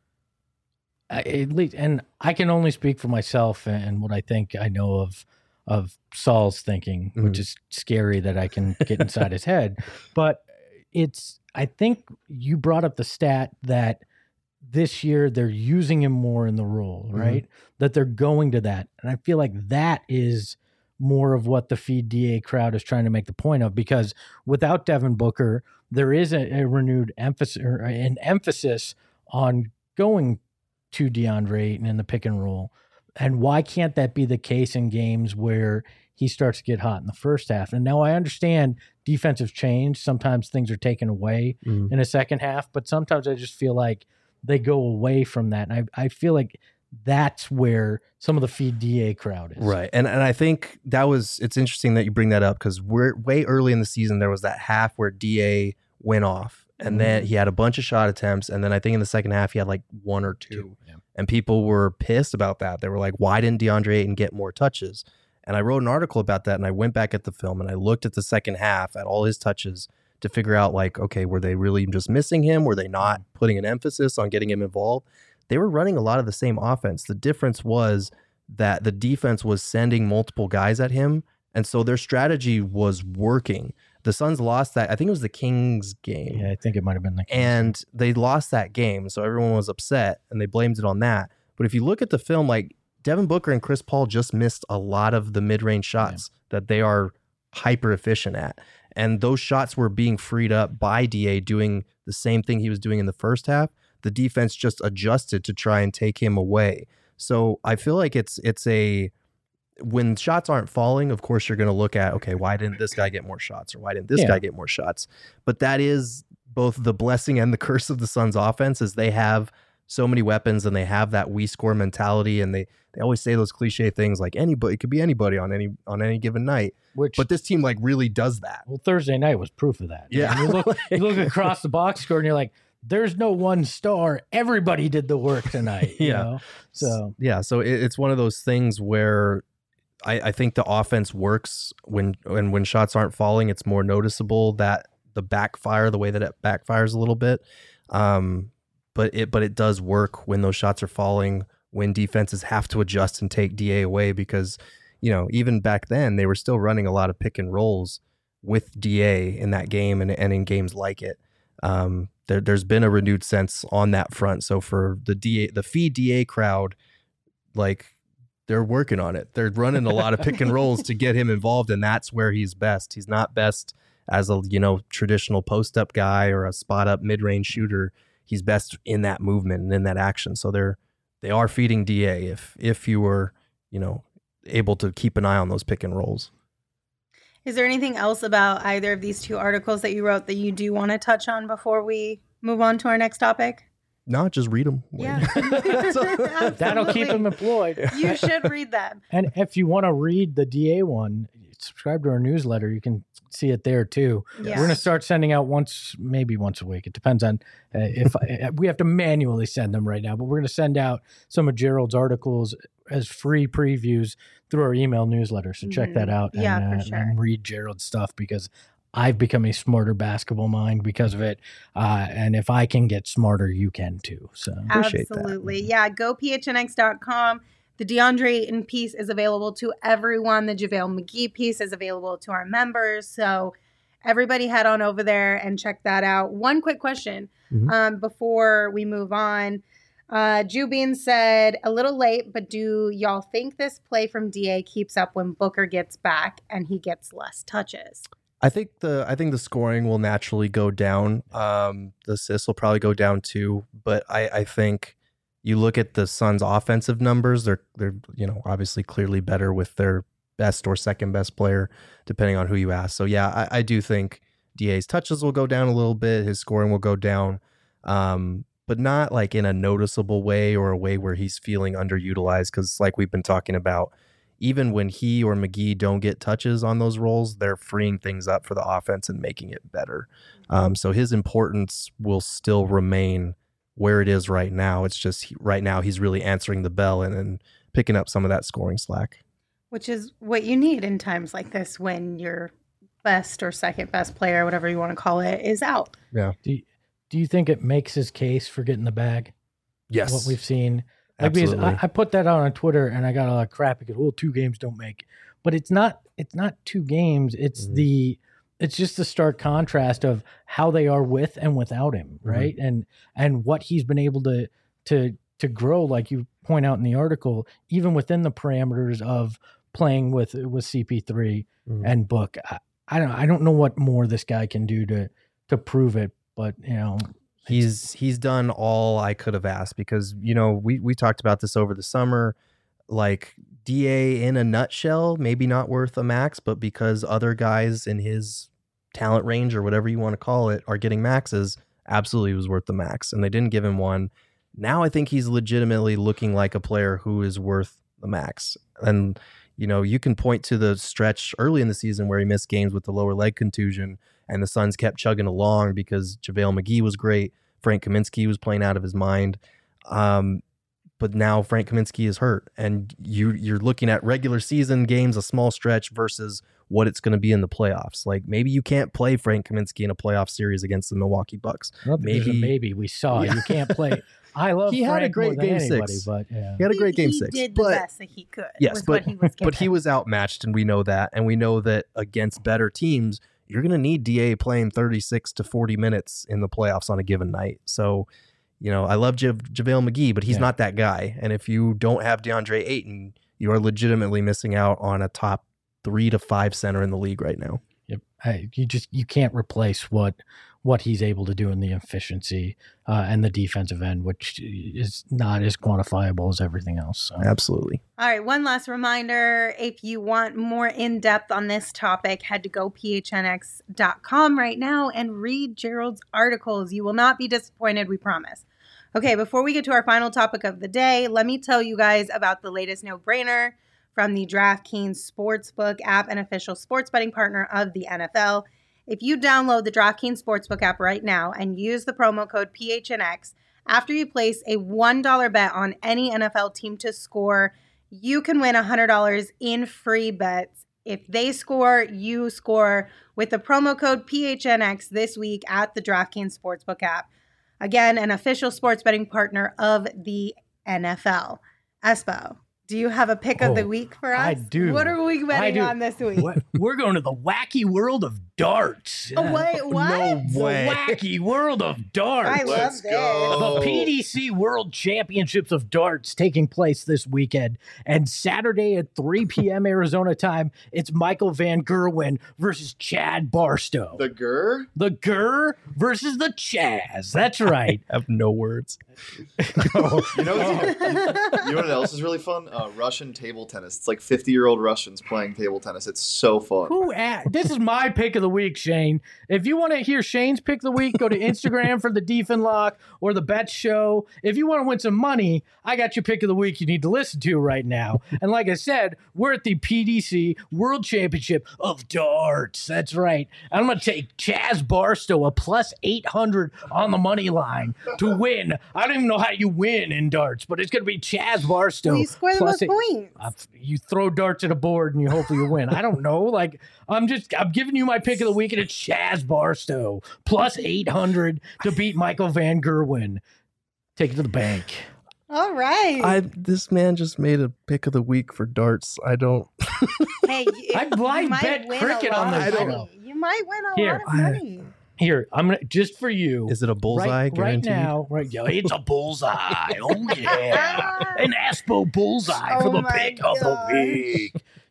at least, and I can only speak for myself and what I think I know of Saul's thinking, which is scary that I can get inside his head. But I think you brought up the stat that this year they're using him more in the role, right? That they're going to that. And I feel like that is more of what the Feed DA crowd is trying to make the point of, because without Devin Booker, there is a renewed emphasis or an emphasis on going to DeAndre Ayton in the pick and roll. And why can't that be the case in games where he starts to get hot in the first half? And now I understand defensive change. Sometimes things are taken away in a second half, but sometimes I just feel like they go away from that. And I feel like that's where some of the Feed DA crowd is. Right. And I think it's interesting that you bring that up, because we're way early in the season. There was that half where DA went off and then he had a bunch of shot attempts. And then I think in the second half, he had like one or two. Yeah. And people were pissed about that. They were like, why didn't DeAndre Ayton get more touches? And I wrote an article about that, and I went back at the film and I looked at the second half at all his touches to figure out, like, okay, were they really just missing him? Were they not putting an emphasis on getting him involved? They were running a lot of the same offense. The difference was that the defense was sending multiple guys at him, and so their strategy was working. The Suns lost that. I think it was the Kings game. Yeah, I think it might have been the Kings. And they lost that game, so everyone was upset, and they blamed it on that. But if you look at the film, like, Devin Booker and Chris Paul just missed a lot of the mid-range shots that they are hyper efficient at. And those shots were being freed up by DA doing the same thing he was doing in the first half. The defense just adjusted to try and take him away. So I feel like it's when shots aren't falling, of course you're going to look at, okay, why didn't this guy get more shots, or why didn't this guy get more shots? But that is both the blessing and the curse of the Suns offense, is they have so many weapons and they have that we score mentality, and they always say those cliche things like anybody, it could be anybody on any given night. But this team like really does that. Well, Thursday night was proof of that. Yeah. You look across the box score and you're like, there's no one star. Everybody did the work tonight. You know? So it's one of those things where I think the offense works when shots aren't falling. It's more noticeable that the way that it backfires a little bit. But it does work when those shots are falling, when defenses have to adjust and take DA away, because, you know, even back then they were still running a lot of pick and rolls with DA in that game and in games like it. There's been a renewed sense on that front. So for the Feed DA crowd, like, they're working on it. They're running a lot of pick and rolls to get him involved, and that's where he's best. He's not best as a, traditional post up guy or a spot up mid range shooter. He's best in that movement and in that action. So they are feeding DA if you were, able to keep an eye on those pick and rolls. Is there anything else about either of these two articles that you wrote that you do want to touch on before we move on to our next topic? No, just read them. Yeah. That'll keep them employed. You should read them. And if you want to read the DA one, subscribe to our newsletter. You can see it there too. Yeah. We're going to start sending out maybe once a week. It depends on if we have to manually send them right now, but we're going to send out some of Gerald's articles as free previews through our email newsletter. So check that out and read Gerald's stuff, because I've become a smarter basketball mind because of it. And if I can get smarter, you can too. So appreciate absolutely. That. Yeah. Go phnx.com. The DeAndre Ayton piece is available to everyone. The JaVale McGee piece is available to our members. So everybody head on over there and check that out. One quick question before we move on. Jubin said, a little late, but do y'all think this play from DA keeps up when Booker gets back and he gets less touches? I think the scoring will naturally go down. The assists will probably go down too. But I think you look at the Suns' offensive numbers; they're obviously clearly better with their best or second best player, depending on who you ask. So yeah, I do think DA's touches will go down a little bit. His scoring will go down, but not like in a noticeable way or a way where he's feeling underutilized. Because like we've been talking about, even when he or McGee don't get touches on those roles, they're freeing things up for the offense and making it better. So his importance will still remain where it is right now. It's just right now he's really answering the bell and picking up some of that scoring slack. Which is what you need in times like this when your best or second best player, whatever you want to call it, is out. Yeah. Do you think it makes his case for getting the bag? Yes. What we've seen. Like, Absolutely. I put that out on Twitter and I got a lot of crap because, well, 2 games don't make it. But it's not 2 games. It's it's just the stark contrast of how they are with and without him, right? And what he's been able to grow, like you point out in the article, even within the parameters of playing with CP3 and Book. I don't know what more this guy can do to prove it, but you know, he's done all I could have asked, because you know we talked about this over the summer. Like, DA in a nutshell, maybe not worth a max, but because other guys in his talent range or whatever you want to call it are getting maxes, absolutely was worth the max, and they didn't give him one. Now I think he's legitimately looking like a player who is worth the max. And you know, you can point to the stretch early in the season where he missed games with the lower leg contusion, and the Suns kept chugging along because JaVale McGee was great. Frank Kaminsky was playing out of his mind. But now Frank Kaminsky is hurt, and you're looking at regular season games, a small stretch, versus what it's going to be in the playoffs. Like, maybe you can't play Frank Kaminsky in a playoff series against the Milwaukee Bucks. Maybe we saw you can't play. I love. He Frank had a great game anybody, 6, but yeah. He had a great game he 6. He did the best that he could. Yes, but he was but he was outmatched, and we know that, and we know that against better teams, you're going to need DA playing 36 to 40 minutes in the playoffs on a given night. So, you know, I love JaVale McGee, but he's not that guy. And if you don't have DeAndre Ayton, you are legitimately missing out on a top 3 to 5 center in the league right now. Yep. You can't replace what he's able to do in the efficiency and the defensive end, which is not as quantifiable as everything else. So. Absolutely. All right. One last reminder. If you want more in-depth on this topic, head to gophnx.com right now and read Gerald's articles. You will not be disappointed, we promise. Okay, before we get to our final topic of the day, let me tell you guys about the latest no-brainer from the DraftKings Sportsbook app, an official sports betting partner of the NFL. If you download the DraftKings Sportsbook app right now and use the promo code PHNX, after you place a $1 bet on any NFL team to score, you can win $100 in free bets. If they score, you score with the promo code PHNX this week at the DraftKings Sportsbook app. Again, an official sports betting partner of the NFL. Espo, do you have a pick of the week for us? I do. What are we betting on this week? We're going to the wacky world of darts. Oh, wait, what? No way. The wacky world of darts. I love this. The PDC World Championships of Darts taking place this weekend. And Saturday at 3 p.m. Arizona time, it's Michael Van Gerwen versus Chad Barstow. The Gur? The Gur versus the Chaz. That's right. I have no words. You know what else is really fun? Russian table tennis. It's like 50-year-old Russians playing table tennis. It's so fun. This is my pick of the week, Shane. If you want to hear Shane's pick of the week, go to Instagram for the Defin Lock or the Bet Show. If you want to win some money, I got your pick of the week you need to listen to right now. And like I said, we're at the PDC World Championship of Darts. That's right. I'm going to take Chaz Barstow, a plus 800 on the money line to win. I don't even know how you win in darts, but it's going to be Chaz Barstow. Well, you score the most points. You throw darts at a board and you hopefully you win. I don't know. Like, I'm giving you my pick of the week, and it's Chaz Barstow plus 800 to beat Michael Van Gerwen. Take it to the bank. All right. This man just made a pick of the week for darts. I don't. Hey, I blind bet cricket on this show. You might win a lot of money. Here, I'm gonna just for you. Is it a bullseye? Right now, it's a bullseye. Oh yeah, an Espo bullseye for the pick of the week.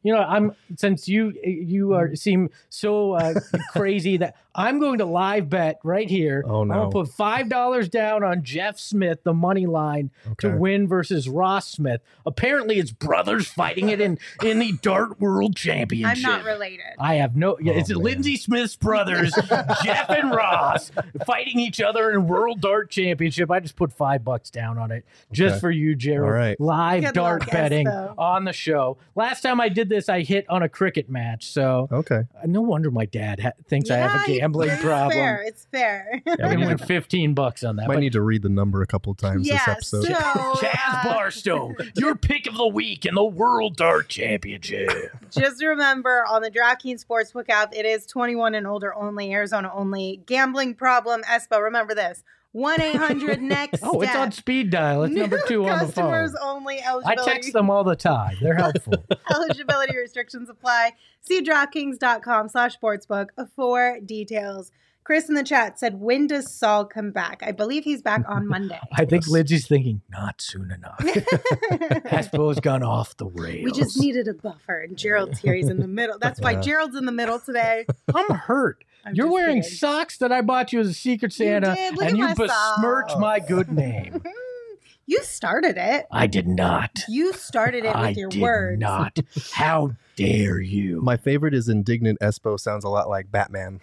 since you seem so crazy that I'm going to live bet right here. Oh, no. I'm going to put $5 down on Jeff Smith, the money line, to win versus Ross Smith. Apparently, it's brothers fighting it in the Dart World Championship. I'm not related. I have no. It's Lindsay Smith's brothers, Jeff and Ross, fighting each other in World Dart Championship. I just put $5 down on it just for you, Gerald. All right. Live Good dart luck, betting Espo. on the show. Last time I did this, I hit on a cricket match. So no wonder my dad thinks I have a gambling problem. It's fair. I can win $15 on that. Might need to read the number a couple of times this episode. So, Chaz Barstow, your pick of the week in the World Dart Championship. just remember on the DraftKings Sportsbook app, it is 21 and older only, Arizona only. Gambling problem, Espo, remember this. 1-800-NEXT Oh, it's on speed dial. It's number 2 on the phone. Customers only. I text them all the time. They're helpful. Eligibility restrictions apply. See DraftKings.com/sportsbook for details. Chris in the chat said, when does Saul come back? I believe he's back on Monday. I think Lindsay's thinking, not soon enough. Hasbro's gone off the rails. We just needed a buffer, and Gerald's here. He's in the middle. That's why Gerald's in the middle today. I'm hurt. You're just wearing kidding. socks that I bought you as a Secret Santa, did. Look and at you my besmirch socks. my good name. You started it. I did not. You started it with your words. Not. How dare you? My favorite is indignant Espo. Sounds a lot like Batman.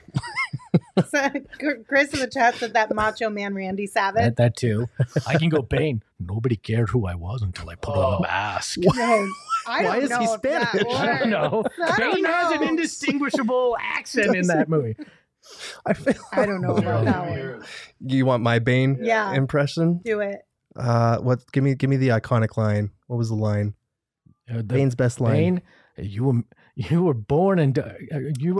So, Chris in the chat said that Macho Man Randy Savage. That too. I can go Bane. Nobody cared who I was until I put on the mask. Why is he Spanish? I don't know. Bane has an indistinguishable accent in that movie. I don't know about that one. You want my Bane impression? Do it. What? Give me the iconic line. What was the line? Bane's best line. Bane, you were born in you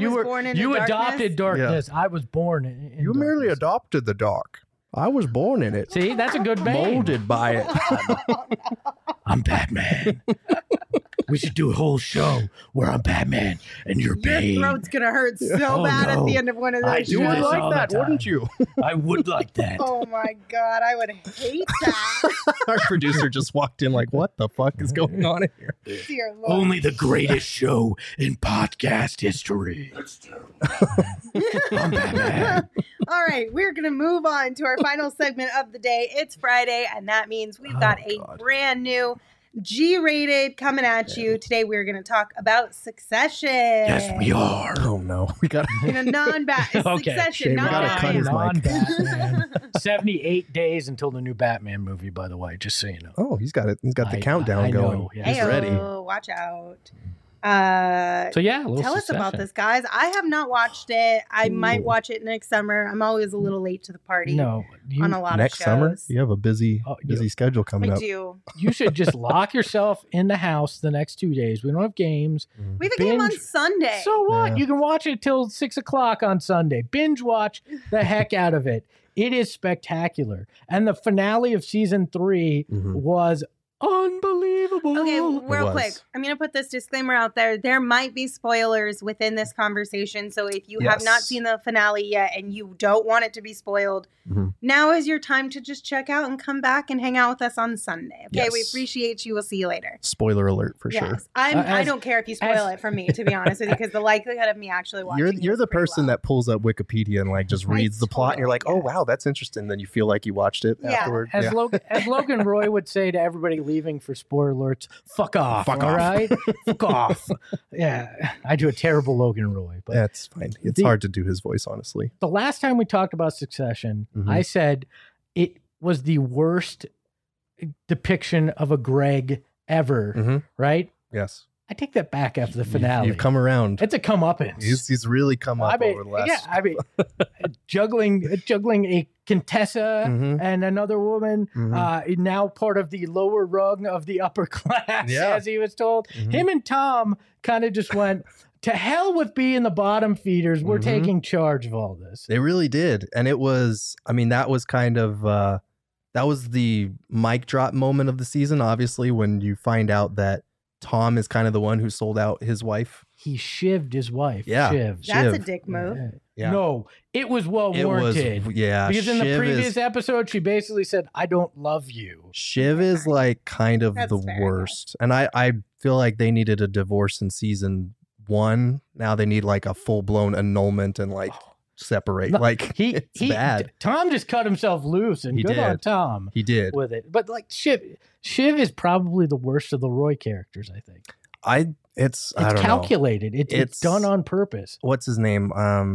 adopted darkness. Yeah. I was born in You darkness. merely adopted the dark. I was born in it. See, that's a good Bane. Molded by it. I'm Batman. We should do a whole show where I'm Batman and you're Bane. Your throat's gonna hurt so bad at the end of one of those I shows. do You would this all like the that, time. wouldn't you? I would like that. Oh my god, I would hate that. Our producer just walked in like, what the fuck is going on in here? Dear Lord. Only the greatest show in podcast history. I'm Batman. All right, we're going to move on to our final segment of the day. It's Friday, and that means we've got a brand new G-rated coming at you. Today, we're going to talk about Succession. Yes, we are. Oh no, we got In a non-bat Succession, Shane, we not gotta cut his mic. Non-Batman. 78 days until the new Batman movie, by the way, just so you know. Oh, he's got it. He's got the I countdown know, going. yeah. He's Heyo, ready. Watch out. So yeah, a little Tell us Succession. about this, guys. I have not watched it. I might watch it next summer. I'm always a little late to the party No, on a lot Next of shows. summer, you have a busy yeah. schedule coming I up. do. you should just lock yourself in the house the next 2 days. We don't have games. We have a game on Binge. Sunday. So what? Yeah. You can watch it till 6 o'clock on Sunday. Binge watch the heck out of it. It is spectacular. And the finale of season 3 was unbelievable. Okay, real was. quick. I'm going to put this disclaimer out there. There might be spoilers within this conversation. So if you have not Yes. seen the finale yet and you don't want it to be spoiled, now is your time to just check out and come back and hang out with us on Sunday. Okay, we Yes. appreciate you. We'll see you later. Spoiler alert for sure. Yes, I don't care if you spoil it for me, to be honest with you, because the likelihood of me actually watching You're it the is pretty person low. that pulls up Wikipedia and like just I reads the plot, and you're like, totally oh wow, that's interesting. Then you feel like you watched it Yeah. afterward. As, as Logan Roy would say to everybody leaving for spoiler alerts, fuck off. Fuck all off. right? Fuck off. Yeah, I do a terrible Logan Roy. But That's fine. It's hard to do his voice, honestly. the last time we talked about Succession, I said it was the worst depiction of a Greg ever, right? Yes. I take that back after the finale. You've come around. It's a comeuppance. He's really come up over the last. Yeah, I mean, juggling a Contessa and another woman, now part of the lower rung of the upper class, as he was told. Him and Tom kind of just went, to hell with being the bottom feeders. We're taking charge of all this. They really did. And it was, I mean, that was kind of, that was the mic drop moment of the season, obviously, when you find out that Tom is kind of the one who sold out his wife. He shivved his wife. Yeah. Shivved. That's a dick move. Yeah. No, it was well It was, warranted. yeah. Because in the Shiv previous episode, she basically said, I don't love you. Shiv is like kind of That's the fair, worst. And I feel like they needed a divorce in season 1. Now they need like a full blown annulment and like separate. Like it's bad. Tom just cut himself loose, and good on Tom. He did with it. But like Shiv is probably the worst of the Roy characters. I think it's calculated. It's done on purpose. What's his name?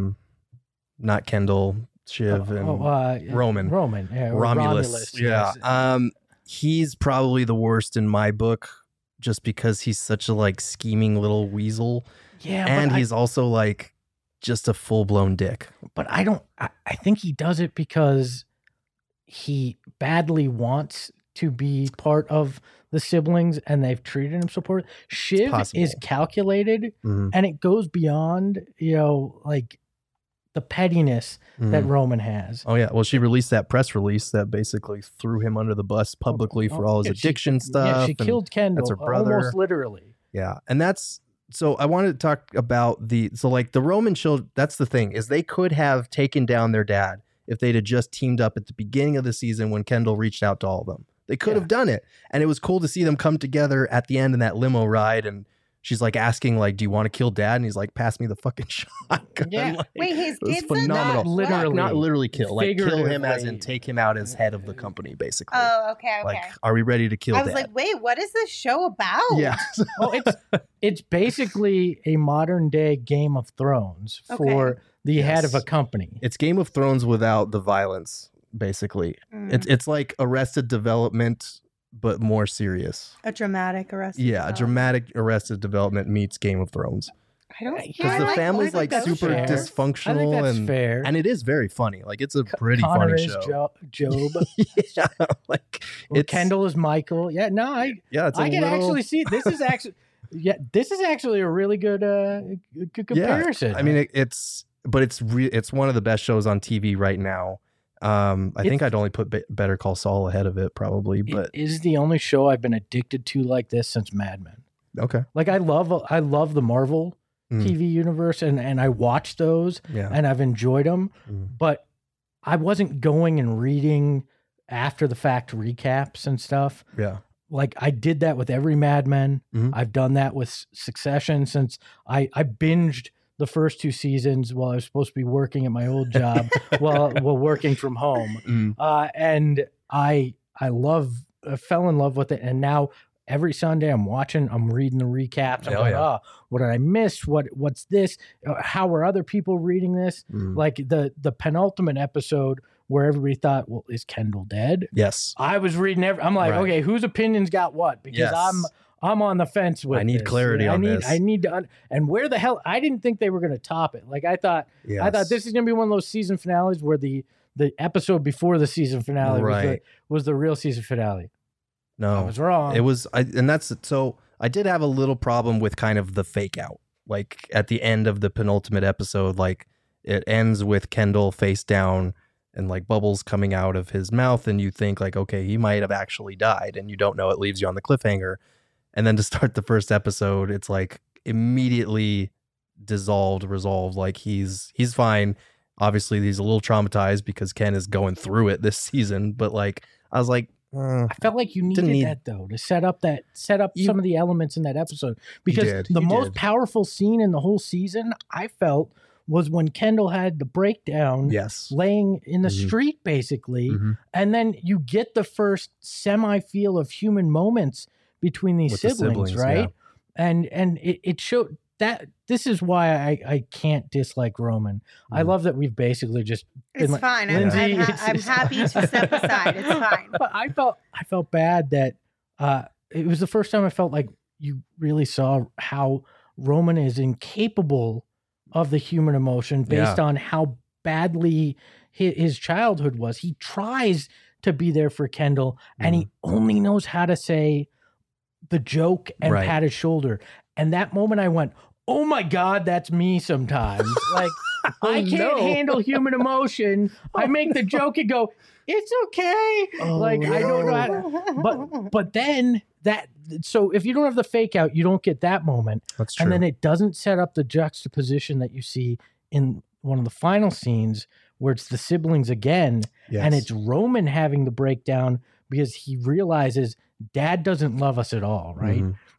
Not Kendall, Shiv, and Roman. Yeah, Romulus. Yeah. Yes. He's probably the worst in my book, just because he's such a like scheming little weasel. Yeah, and he's also like just a full blown dick. But I think he does it because he badly wants to be part of the siblings, and they've treated him so poorly. Shiv is calculated, and it goes beyond, like the pettiness that Roman has. Oh yeah. Well, she released that press release that basically threw him under the bus publicly for all his addiction stuff. Yeah, she killed Kendall. That's her brother. Almost literally. Yeah. And so I wanted to talk about the Roman children. That's the thing, is they could have taken down their dad if they'd have just teamed up at the beginning of the season when Kendall reached out to all of them. They could have done it. And it was cool to see them come together at the end in that limo ride. And she's like asking, like, do you want to kill dad? And he's like, pass me the fucking shotgun. Yeah. Like, wait, his kids phenomenal. Not literally kill. Like, kill him as in take him out as head of the company, basically. Oh, okay. Like, are we ready to kill dad? I was like, wait, what is this show about? Yeah. Well, it's basically a modern day Game of Thrones for the head of a company. It's Game of Thrones without the violence, basically. It's like Arrested Development, but more serious. A dramatic Arrested Development. A dramatic Arrested Development meets Game of Thrones. I don't because the family's like super dysfunctional. I think that's fair, and it is very funny. Like it's a pretty Connor funny show. Job. Yeah, like Kendall is Michael. Yeah, no, I can actually see this is actually a really good comparison. Yeah, I mean it's one of the best shows on TV right now. I think I'd only put Better Call Saul ahead of it probably, but it is the only show I've been addicted to like this since Mad Men. Okay. Like I love the Marvel TV universe and I watch those and I've enjoyed them, but I wasn't going and reading after the fact recaps and stuff. Yeah. Like I did that with every Mad Men. I've done that with Succession since I binged the first 2 seasons while I was supposed to be working at my old job while working from home. And I fell in love with it. And now every Sunday I'm reading the recaps. I'm going, what did I miss? What's this? How are other people reading this? Like the penultimate episode where everybody thought, well, is Kendall dead? Yes. I was reading I'm like, okay, whose opinion's got what? Because I'm on the fence with I need this. clarity on this. I need to and where the hell I didn't think they were going to top it. Like I thought this is going to be one of those season finales where the episode before the season finale was the real season finale. No, I was wrong. It was I did have a little problem with kind of the fake out. Like at the end of the penultimate episode, like it ends with Kendall face down and like bubbles coming out of his mouth, and you think like, okay, he might have actually died, and you don't know. It leaves you on the cliffhanger. And then to start the first episode, it's like immediately resolved. Like he's fine. Obviously, he's a little traumatized because Ken is going through it this season. But like, I was like, I felt like you needed that though to set up some of the elements in that episode, because the most powerful scene in the whole season I felt was when Kendall had the breakdown, laying in the street basically, and then you get the first semi feel of human moments between these siblings, right? Yeah. And it showed that this is why I can't dislike Roman. I love that we've basically just it's fine. Lindsay, I'm happy to step aside. It's fine. But I felt bad that it was the first time I felt like you really saw how Roman is incapable of the human emotion based on how badly his childhood was. He tries to be there for Kendall, and he only knows how to say the joke and pat his shoulder. And that moment I went, oh my God, that's me sometimes. Like, I can't handle human emotion. I make the joke and go, it's okay. I don't know how to, but then so if you don't have the fake out, you don't get that moment. That's true. And then it doesn't set up the juxtaposition that you see in one of the final scenes where it's the siblings again. And it's Roman having the breakdown because he realizes Dad doesn't love us at all, right?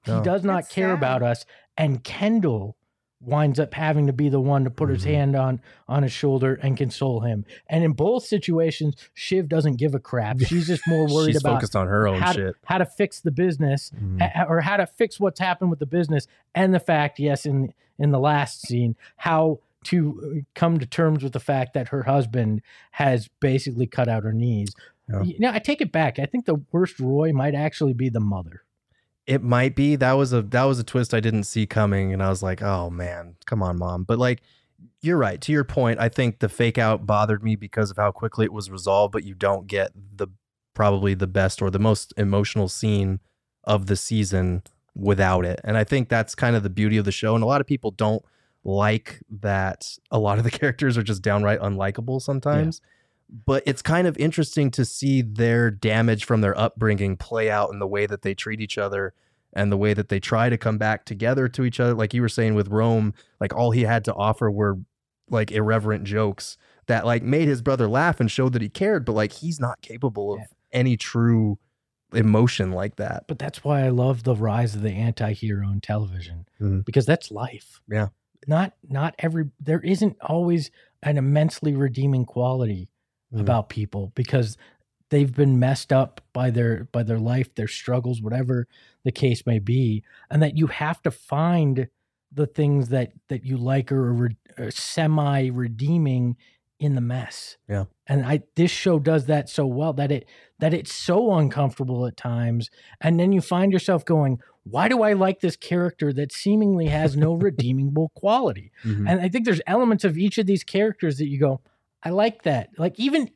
He does not That's care sad. about us. And Kendall winds up having to be the one to put his hand on his shoulder and console him. And in both situations, Shiv doesn't give a crap. She's just more worried She's about focused on her own shit. how to fix the business or how to fix what's happened with the business. And the fact, yes, in the last scene, how to come to terms with the fact that her husband has basically cut out her knees. Yeah. You know, I take it back. I think the worst Roy might actually be the mother. It might be. That was a twist I didn't see coming, and I was like, oh man, come on, Mom. But like, you're right. To your point, I think the fake out bothered me because of how quickly it was resolved, but you don't get probably the best or the most emotional scene of the season without it. And I think that's kind of the beauty of the show. And a lot of people don't like that a lot of the characters are just downright unlikable sometimes. Yeah. But it's kind of interesting to see their damage from their upbringing play out in the way that they treat each other and the way that they try to come back together to each other. Like you were saying with Rome, like all he had to offer were like irreverent jokes that like made his brother laugh and showed that he cared, but like he's not capable of any true emotion like that. But that's why I love the rise of the anti-hero in television, because that's life. Yeah. There isn't always an immensely redeeming quality about people because they've been messed up by their life, their struggles, whatever the case may be, and that you have to find the things that you like or semi redeeming in the mess. Yeah. And this show does that so well that it's so uncomfortable at times, and then you find yourself going, why do I like this character that seemingly has no redeemable quality? And I think there's elements of each of these characters that you go, I like that. Like even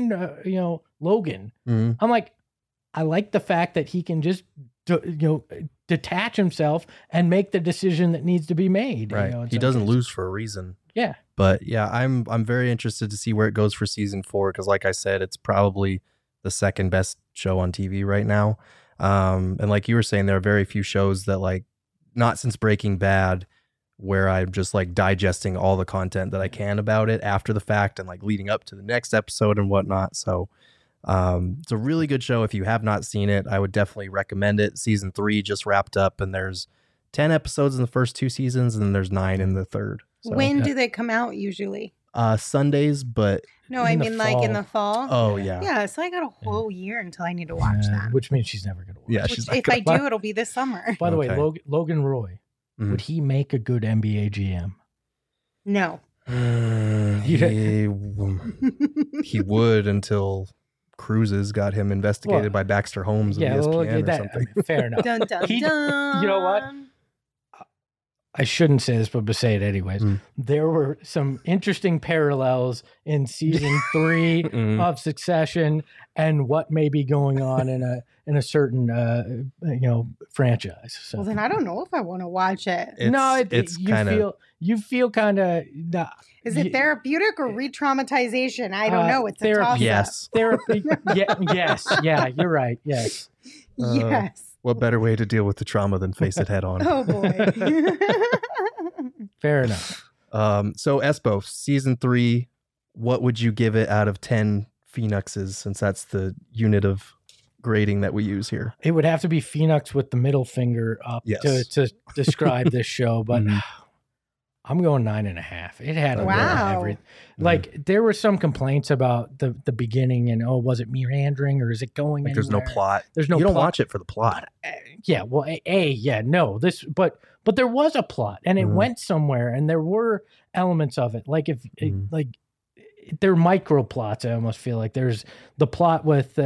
Logan. I'm like, I like the fact that he can just detach himself and make the decision that needs to be made. Right. He doesn't lose for a reason. Yeah. But yeah, I'm very interested to see where it goes for season 4 because, like I said, it's probably the second best show on TV right now. And like you were saying, there are very few shows that like, not since Breaking Bad, where I'm just like digesting all the content that I can about it after the fact and like leading up to the next episode and whatnot. So it's a really good show. If you have not seen it, I would definitely recommend it. Season 3 just wrapped up and there's 10 episodes in the first 2 seasons and then there's 9 in the third. So, when do they come out usually? Sundays, but no, I mean like in the fall. Oh yeah. Yeah, so I got a whole year until I need to watch that. Which means she's never going to watch. Yeah, Which, if I do, it'll be this summer. By the way, Logan Roy, would he make a good NBA GM? No. He would until Cruises got him investigated by Baxter Holmes of ESPN or something. Fair enough. Dun, dun, dun. You know what? I shouldn't say this, but say it anyways. There were some interesting parallels in season 3 of Succession and what may be going on in a certain franchise. So. Well, then I don't know if I want to watch it. You feel kind of. Is it therapeutic or re-traumatization? I don't know. It's therapy. A toss-up. Yes. Therapy. Yes. Yeah, you're right. Yes. Yes. What better way to deal with the trauma than face it head on? Oh boy. Fair enough. So Espo, season 3, what would you give it out of 10 Phoenixes, since that's the unit of grading that we use here? It would have to be Phoenix with the middle finger up to describe this show, but I'm going 9.5. It had a everything. Like there were some complaints about the beginning and was it meandering or is it going like anywhere? There's no plot. There's no You don't plot. watch it for the plot. But there was a plot and it went somewhere and there were elements of it. Like they're micro plots. I almost feel like there's the plot with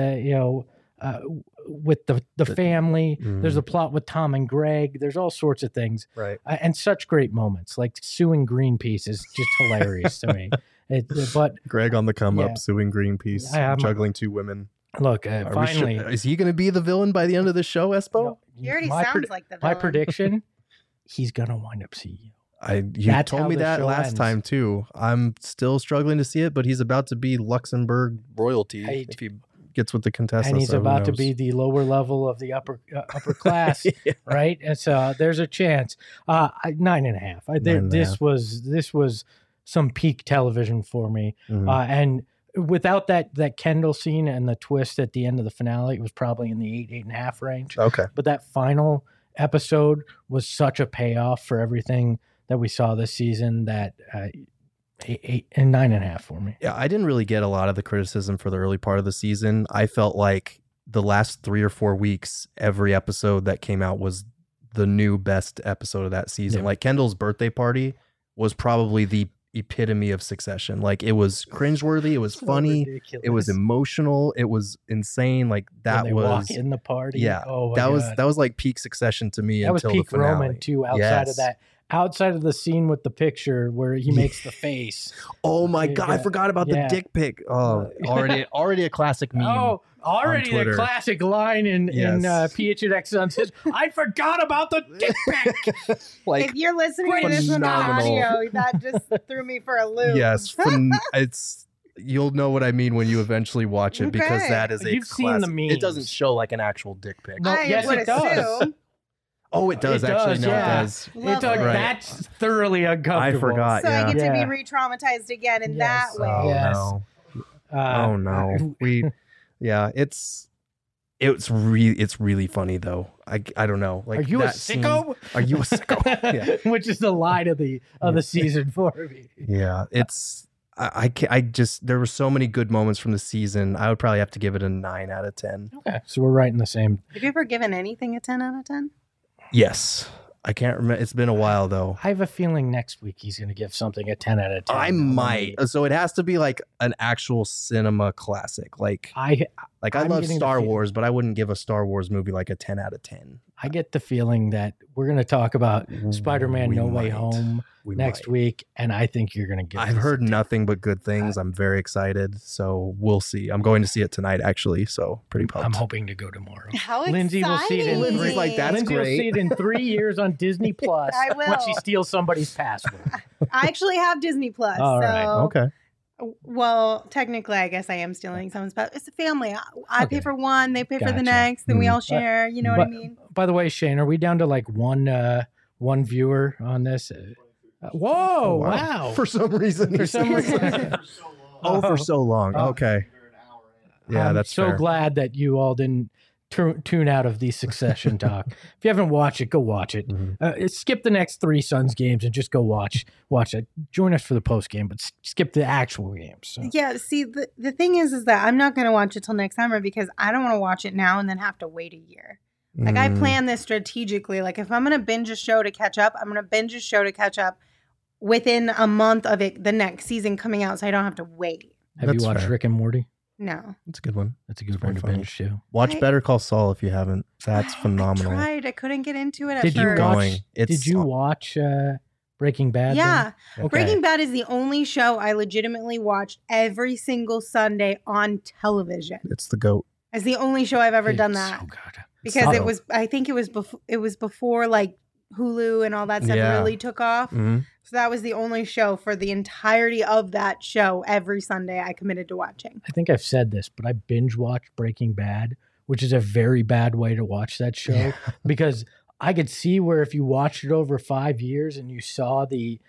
with the family. There's a plot with Tom and Greg. There's all sorts of things. Right. And such great moments. Like suing Greenpeace is just hilarious to me. But Greg on the come up, suing Greenpeace, juggling 2 women. Look, finally. Is he going to be the villain by the end of the show, Espo? No, he already sounds like the villain. My prediction, he's going to wind up CEO. You told me that last time too. I'm still struggling to see it, but he's about to be Luxembourg royalty if he gets with the Contessa. And he's about to be the lower level of the upper class, right? And so there's a chance. 9.5. This was some peak television for me. And without that Kendall scene and the twist at the end of the finale, it was probably in the 8.5 range. Okay. But that final episode was such a payoff for everything that we saw this season that 8 and 9.5 for me. Yeah, I didn't really get a lot of the criticism for the early part of the season. I felt like the last 3 or 4 weeks, every episode that came out was the new best episode of that season. Yeah. Like Kendall's birthday party was probably the epitome of Succession. Like it was cringeworthy, it was funny, ridiculous. it was emotional, it was insane. Like that When they was walk in the party. yeah. Oh my that God. was like peak Succession to me That was until peak the finale. Roman too. Outside of that, outside of the scene with the picture where he makes the face. Oh my God, I Yeah. forgot about the dick pic. Oh, already a classic meme. Oh, already the Twitter. classic line in Yes. PH and X Sun says, "I forgot about the dick pic." Like if you're listening to this on phenomenal. audio, that just threw me for a loop. yes, it's you'll know what I mean when you eventually watch it because Okay. that is a You've seen the classic- It doesn't memes. show like an actual dick pic. No, I yes, would it does. assume. Oh, it does It actually. does, No, yeah. it does. It's like Right. that's thoroughly I uncomfortable. forgot. So I get to Yeah. be re-traumatized again in Yes. that way. Oh Yes. no. Uh, Oh no. Yeah, it's really funny though. I don't know. Like Are you a that scene- sicko? Are you a sicko? Yeah. Which is the line of the season for me. Yeah, it's I just there were so many good moments from the season. I would probably have to give it a 9 out of 10. Okay, so we're right in the same. Have you ever given anything a 10 out of 10? Yes. I can't remember. It's been a while though. I have a feeling next week he's going to give something a 10 out of 10. I might. So it has to be like an actual cinema classic. Like I I'm love getting the Star feel- Wars, but I wouldn't give a Star Wars movie like a 10 out of 10. I get the feeling that we're going to talk about Spider-Man We No Way might. Home We next might. week, and I think you're going to get I've heard nothing but good things. I'm very excited. So we'll see. I'm going to see it tonight actually. So pretty pumped. I'm hoping to go tomorrow. How Lindsay will see it in exciting. Lindsay's like, "That's Lindsay great." will see it in 3 years on Disney Plus I will. when she steals somebody's password. I actually have Disney Plus. All so, right. Okay. Well, technically, I guess I am stealing someone's But it's a family. I pay Okay. for one, they pay for the Gotcha. next, then we Mm. all share. You know what I mean? By the way, Shane, are we down to like one viewer on this? Whoa! Wow! For some reason. For he some says- reason. Oh, for so long. Oh. Okay. Yeah, I'm that's so fair. glad that you all didn't tune out of the Succession talk. If you haven't watched it, go watch it. Mhm. Skip the next 3 Suns games and just go watch it. Join us for the post game, but skip the actual games. So. Yeah, see, the thing is that I'm not going to watch it till next summer because I don't want to watch it now and then have to wait a year. Like, I Mm. plan this strategically. Like, if I'm going to binge a show to catch up, I'm going to binge a show to catch up within a month of it, the next season coming out, so I don't have to wait. Have That's you watched fair. Rick and Morty? No. That's a good one. That's a good very one to funny. binge too. Watch I- Better Call Saul if you haven't. That's phenomenal. I tried. I couldn't get into it at Did you first. watch? going. It's- Did you watch Breaking Bad? then? Yeah. Okay. Breaking Bad is the only show I legitimately watched every single Sunday on television. It's the GOAT. It's the only show I've ever done It's that. So good. Because so- it was, I think it was before like Hulu and all that stuff Yeah. really took off. Mhm. So that was the only show for the entirety of that show every Sunday I committed to watching. I think I've said this, but I binge watched Breaking Bad, which is a very bad way to watch that show because I could see where if you watched it over 5 years and you saw the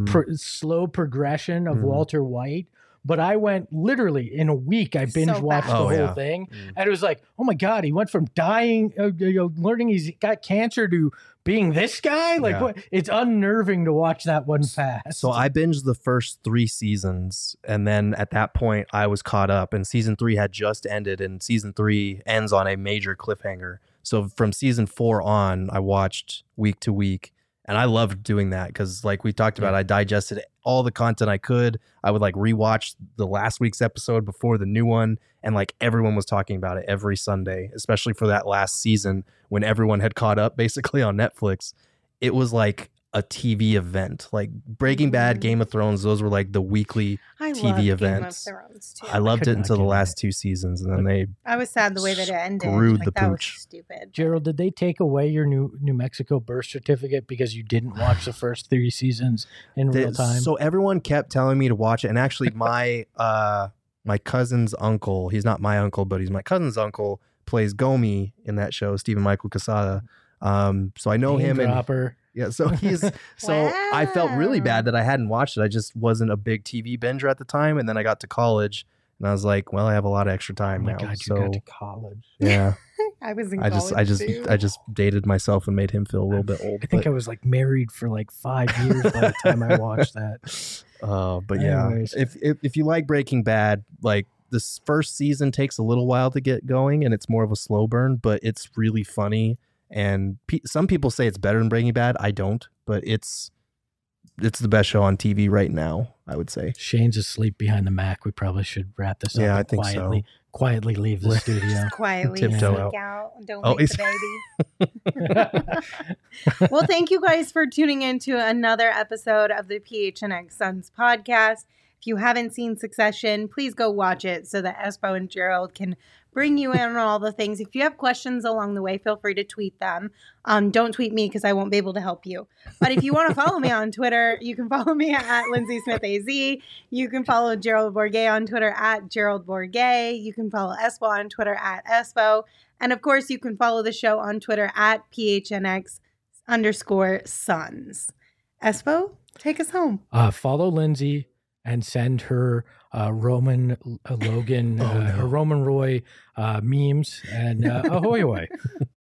slow progression of Mm. Walter White. But I went literally in a week. I binge watched bad. the Oh, whole yeah. thing, Mm. and it was like, oh my god, he went from dying, learning he's got cancer to being this guy. Like, Yeah. what? It's unnerving to watch that one pass. So I binged the first 3 seasons, and then at that point I was caught up, and season 3 had just ended, and season 3 ends on a major cliffhanger. So from season 4 on, I watched week to week, and I loved doing that because, like we talked about, I digested all the content I could. I would like rewatch the last week's episode before the new one, and like everyone was talking about it every Sunday, especially for that last season when everyone had caught up basically on Netflix. It was like a TV event. Like Breaking Bad, Game of Thrones, those were like the weekly I TV loved events. Game of Thrones too. I loved could it not until the get last 2 seasons, and then they I was sad the way that it ended. Screwed Like, the that was pooch. stupid. Gerald, did they take away your New Mexico birth certificate because you didn't watch the first 3 seasons in real time? So everyone kept telling me to watch it, and actually my my cousin's uncle, he's not my uncle, but he's my cousin's uncle, plays Gomi in that show, Stephen Michael Quesada. So I know Name him, and dropper. yeah, so he's so I felt really Wow. bad that I hadn't watched it. I just wasn't a big TV binger at the time, and then I got to college, and I was like, well, I have a lot of extra Oh time my now. god, you so got to college. yeah, I was in I college just dated myself and made him feel a little bit old. I think I was like married for like 5 years by the time I watched that. But anyways. If you like Breaking Bad, like this first season takes a little while to get going and it's more of a slow burn, but it's really funny. And some people say it's better than Breaking Bad. I don't, but it's the best show on TV right now, I would say. Shane's asleep behind the Mac. We probably should wrap this up. Yeah, and I think quietly leave the studio. Just quietly Tiptoe sneak out. Don't wake the he's- baby. Well, thank you guys for tuning in to another episode of the PHNX Suns podcast. If you haven't seen Succession, please go watch it so that Espo and Gerald can bring you in on all the things. If you have questions along the way, feel free to tweet them. Don't tweet me because I won't be able to help you. But if you want to follow me on Twitter, you can follow me at Lindsay Smith AZ. You can follow Gerald Bourguet on Twitter at Gerald Bourguet. You can follow Espo on Twitter at Espo. And of course, you can follow the show on Twitter at PHNX_Suns. Espo, take us home. Follow Lindsay and send her Roman Logan, Roman Roy memes and ahoy.